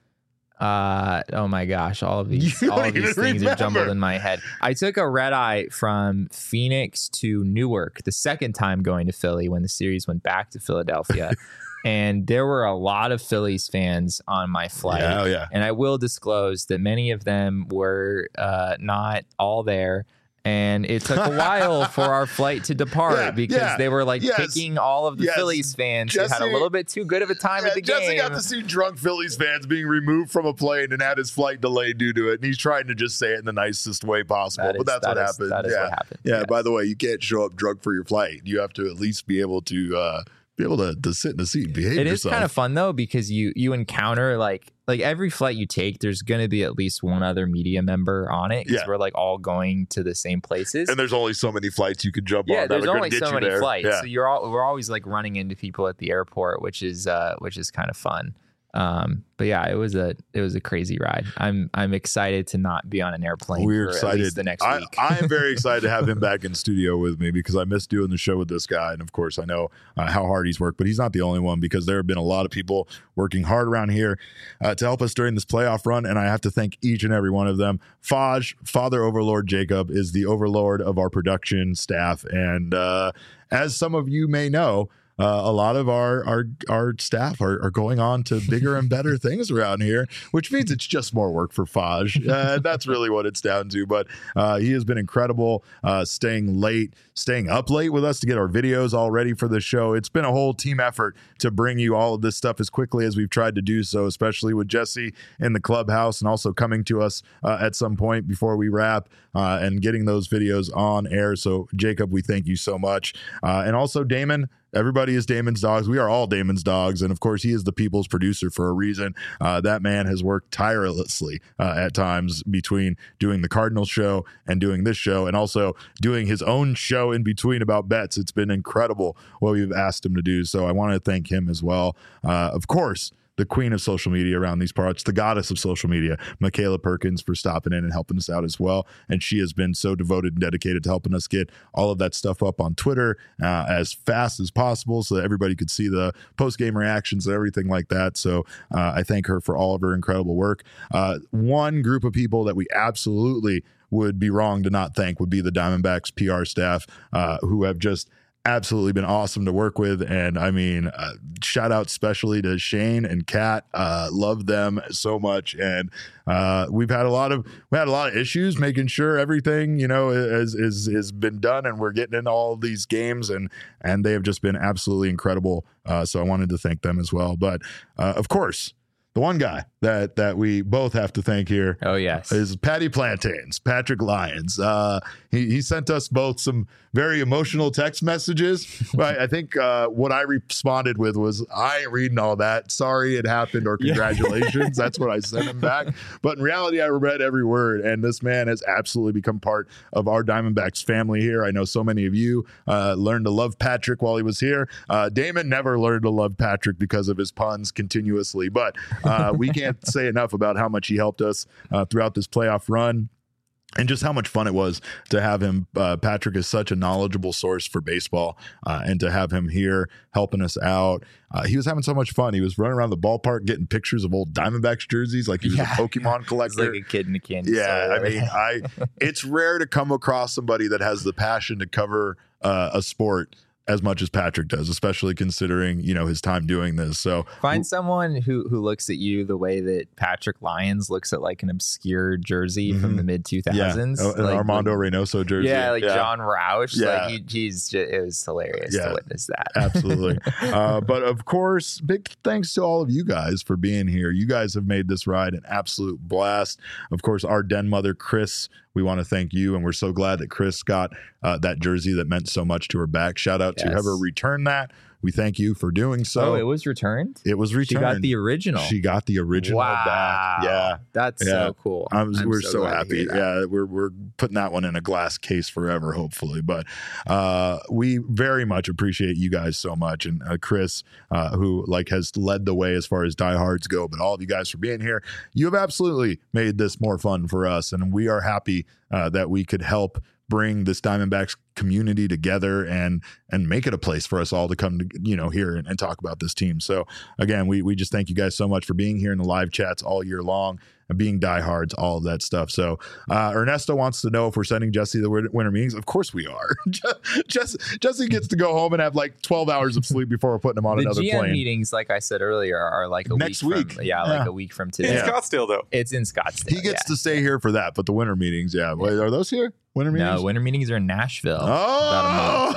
Oh my gosh! All of these things are jumbled in my head. I took a red eye from Phoenix to Newark the second time going to Philly when the series went back to Philadelphia. And there were a lot of Phillies fans on my flight. Yeah. And I will disclose that many of them were not all there. And it took a while for our flight to depart because they were picking all of the Phillies fans who had a little bit too good of a time at the game. Jesse got to see drunk Phillies fans being removed from a plane and had his flight delayed due to it. And he's trying to just say it in the nicest way possible. But that's what happened. That is what happened. Yeah. By the way, you can't show up drunk for your flight. You have to at least be able to be able to sit in a seat and behave It yourself. is kind of fun though, because you encounter like every flight you take, there's going to be at least one other media member on it, because we're like all going to the same places. And there's only so many flights you could jump on. Yeah, that there's are gonna only get so you many there. flights, Yeah. so we're always like running into people at the airport, which is kind of fun. But yeah, it was a crazy ride. I'm excited to not be on an airplane. We're for excited at least the next week. I am very excited to have him back in studio with me, because I miss doing the show with this guy. And of course, I know how hard he's worked, but he's not the only one, because there have been a lot of people working hard around here to help us during this playoff run. And I have to thank each and every one of them. Father Overlord Jacob is the overlord of our production staff. And as some of you may know, a lot of our staff are going on to bigger and better things around here, which means it's just more work for Faj. That's really what it's down to. But he has been incredible, staying up late with us to get our videos all ready for the show. It's been a whole team effort to bring you all of this stuff as quickly as we've tried to do so, especially with Jesse in the clubhouse and also coming to us at some point before we wrap and getting those videos on air. So Jacob, we thank you so much. And also Damon. Everybody is Damon's dogs. We are all Damon's dogs. And of course, he is the people's producer for a reason. That man has worked tirelessly at times between doing the Cardinals show and doing this show, and also doing his own show in between about bets. It's been incredible what we've asked him to do. So I want to thank him as well. Of course, the queen of social media around these parts, the goddess of social media, Michaela Perkins, for stopping in and helping us out as well. And she has been so devoted and dedicated to helping us get all of that stuff up on Twitter as fast as possible, so that everybody could see the post-game reactions and everything like that. So I thank her for all of her incredible work. One group of people that we absolutely would be wrong to not thank would be the Diamondbacks PR staff, who have just absolutely been awesome to work with. And I mean, shout out especially to Shane and Kat. Love them so much. And we've had a lot of issues making sure everything, is been done, and we're getting in all of these games, and they have just been absolutely incredible. So I wanted to thank them as well. But of course, the one guy that we both have to thank here, is Patty Plantains, Patrick Lyons. He sent us both some very emotional text messages. But I think what I responded with was, I ain't reading all that. Sorry it happened, or congratulations. That's what I sent him back. But in reality, I read every word, and this man has absolutely become part of our Diamondbacks family here. I know so many of you learned to love Patrick while he was here. Damon never learned to love Patrick because of his puns continuously, but we can't say enough about how much he helped us throughout this playoff run. And just how much fun it was to have him. Patrick is such a knowledgeable source for baseball, and to have him here helping us out. He was having so much fun. He was running around the ballpark getting pictures of old Diamondbacks jerseys like he was a Pokemon collector. Like a kid in a candy store. I mean, it's rare to come across somebody that has the passion to cover a sport as much as Patrick does, especially considering, his time doing this. So find someone who looks at you the way that Patrick Lyons looks at like an obscure jersey from the mid 2000s, an Armando Reynoso jersey. John Roush. It was hilarious to witness that. Absolutely. But of course, big thanks to all of you guys for being here. You guys have made this ride an absolute blast. Of course, our den mother, Chris, we want to thank you, and we're so glad that Chris got that jersey that meant so much to her back. Shout out to whoever returned that. We thank you for doing so. Oh, it was returned? It was returned. She got the original. She got the original back. Yeah. That's so cool. We're so happy. Yeah, we're putting that one in a glass case forever, hopefully. But we very much appreciate you guys so much. And Chris, who has led the way as far as diehards go, but all of you guys for being here. You have absolutely made this more fun for us. And we are happy that we could help bring this Diamondbacks community together and make it a place for us all to come to, here and talk about this team. So again, we just thank you guys so much for being here in the live chats all year long and being diehards, all of that stuff. So Ernesto wants to know if we're sending Jesse the winter meetings. Of course we are. Jesse gets to go home and have 12 hours of sleep before we're putting him on another plane. The GM meetings, like I said earlier, are next week. Like a week from today. In Scottsdale, though. It's in Scottsdale. He gets to stay here for that, but the winter meetings, Wait, are those here? Winter meetings? No, winter meetings are in Nashville. Oh,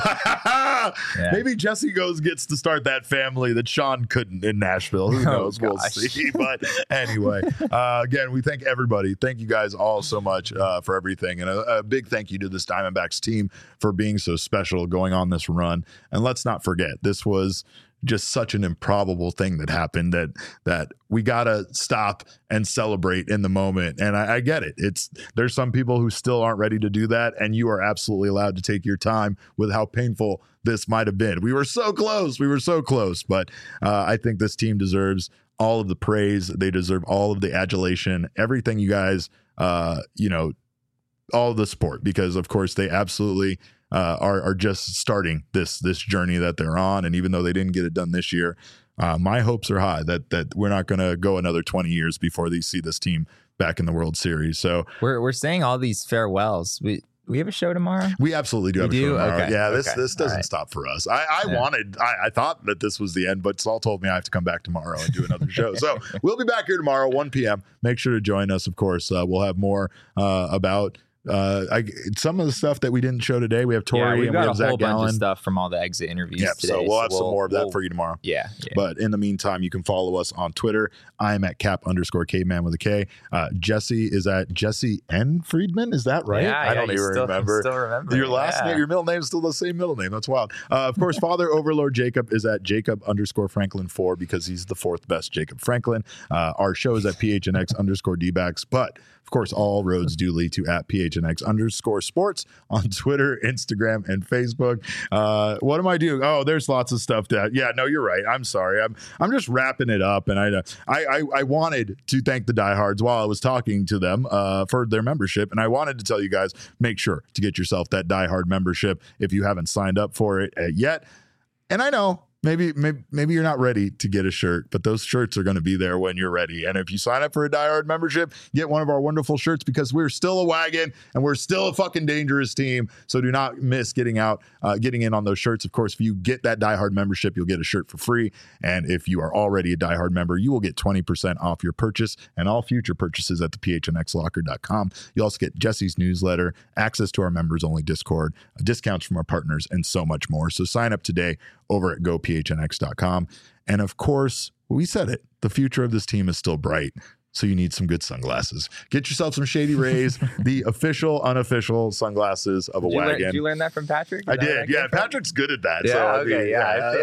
maybe Jesse gets to start that family that Sean couldn't in Nashville. Who knows? We'll see. But anyway, again, we thank everybody. Thank you guys all so much for everything. And a big thank you to this Diamondbacks team for being so special going on this run. And let's not forget, this was just such an improbable thing that happened that we gotta stop and celebrate in the moment. And I get it. There's some people who still aren't ready to do that, and you are absolutely allowed to take your time with how painful this might have been. We were so close. But I think this team deserves all of the praise. They deserve all of the adulation, everything you guys, all of the support, because of course they absolutely are just starting this journey that they're on. And even though they didn't get it done this year, my hopes are high that we're not going to go another 20 years before they see this team back in the World Series. So we're saying all these farewells. We have a show tomorrow? We absolutely do have a show tomorrow. Okay. Yeah, this doesn't stop for us. I thought that this was the end, but Saul told me I have to come back tomorrow and do another show. So we'll be back here tomorrow, 1 p.m. Make sure to join us, of course. We'll have more about some of the stuff that we didn't show today. We have Tori and we have Zach Gallen. Bunch of stuff from all the exit interviews today. So we'll have some more of that for you tomorrow. Yeah. But in the meantime, you can follow us on Twitter. I'm at Cap_caveman with a K. Jesse is at Jesse N. Friedman. Is that right? I don't even remember. Still remember your last name, your middle name is still the same middle name. That's wild. Of course, Father Overlord Jacob is at Jacob_Franklin4 because he's the fourth best Jacob Franklin. Our show is at PHNX_DBacks, but of course, all roads do lead to at PHNX_sports on Twitter, Instagram, and Facebook. What am I doing? Oh, there's lots of stuff you're right. I'm sorry. I'm just wrapping it up. And I wanted to thank the diehards while I was talking to them for their membership. And I wanted to tell you guys, make sure to get yourself that diehard membership if you haven't signed up for it yet. And I know, Maybe you're not ready to get a shirt, but those shirts are going to be there when you're ready. And if you sign up for a diehard membership, get one of our wonderful shirts because we're still a wagon and we're still a fucking dangerous team. So do not miss getting in on those shirts. Of course, if you get that diehard membership, you'll get a shirt for free. And if you are already a diehard member, you will get 20% off your purchase and all future purchases at the phnxlocker.com. You also get Jesse's newsletter, access to our members only Discord, discounts from our partners, and so much more. So sign up today over at gophnx.com. And of course, we said it, the future of this team is still bright. So you need some good sunglasses. Get yourself some Shady Rays, the official, unofficial sunglasses of a wagon. Did you learn that from Patrick? I did. Yeah, Patrick's good at that. Yeah, so, okay,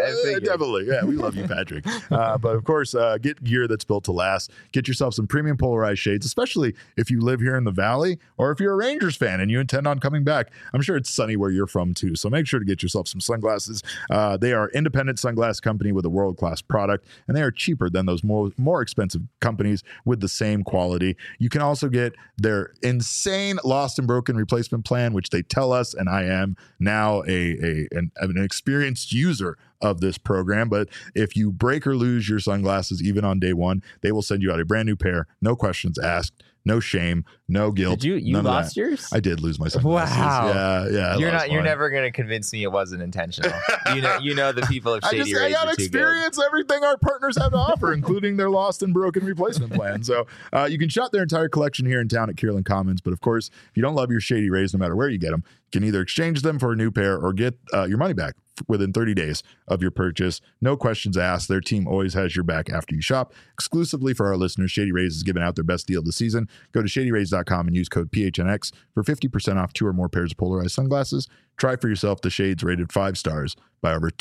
I definitely. Yeah, we love you, Patrick. But of course, get gear that's built to last. Get yourself some premium polarized shades, especially if you live here in the Valley or if you're a Rangers fan and you intend on coming back. I'm sure it's sunny where you're from too. So make sure to get yourself some sunglasses. They are independent sunglass company with a world-class product, and they are cheaper than those more expensive companies with the same quality. You can also get their insane lost and broken replacement plan, which they tell us, and I am now an experienced user of this program. But if you break or lose your sunglasses, even on day one, they will send you out a brand new pair, no questions asked. No shame, no guilt. Did you lost yours? I did lose my sunglasses. Wow. Yeah. You're never going to convince me it wasn't intentional. You know the people of Shady Rays. I got to experience everything our partners have to offer, including their lost and broken replacement plan. So you can shop their entire collection here in town at Kierland Commons. But of course, if you don't love your Shady Rays, no matter where you get them, you can either exchange them for a new pair or get your money back within 30 days of your purchase. No questions asked. Their team always has your back after you shop. Exclusively for our listeners, Shady Rays is giving out their best deal of the season. Go to shadyrays.com and use code PHNX for 50% off 2 or more pairs of polarized sunglasses. Try for yourself the shades rated 5 stars by over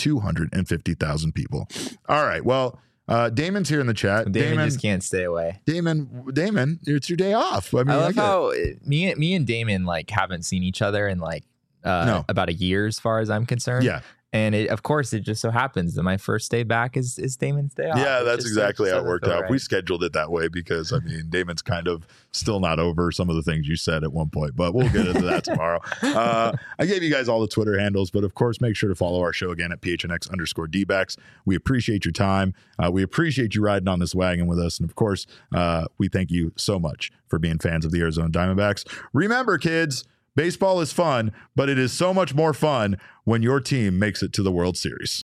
250,000 people. All right. Well, Damon's here in the chat. Damon just can't stay away. Damon, it's your day off. I love how me and Damon haven't seen each other in about a year as far as I'm concerned. Yeah. And of course, it just so happens that my first day back is Damon's day off. Yeah, that's exactly how it worked out. Right. We scheduled it that way because, Damon's kind of still not over some of the things you said at one point, but we'll get into that tomorrow. I gave you guys all the Twitter handles, but of course, make sure to follow our show again at PHNX_DBacks. We appreciate your time. We appreciate you riding on this wagon with us. And of course, we thank you so much for being fans of the Arizona Diamondbacks. Remember, kids, baseball is fun, but it is so much more fun when your team makes it to the World Series.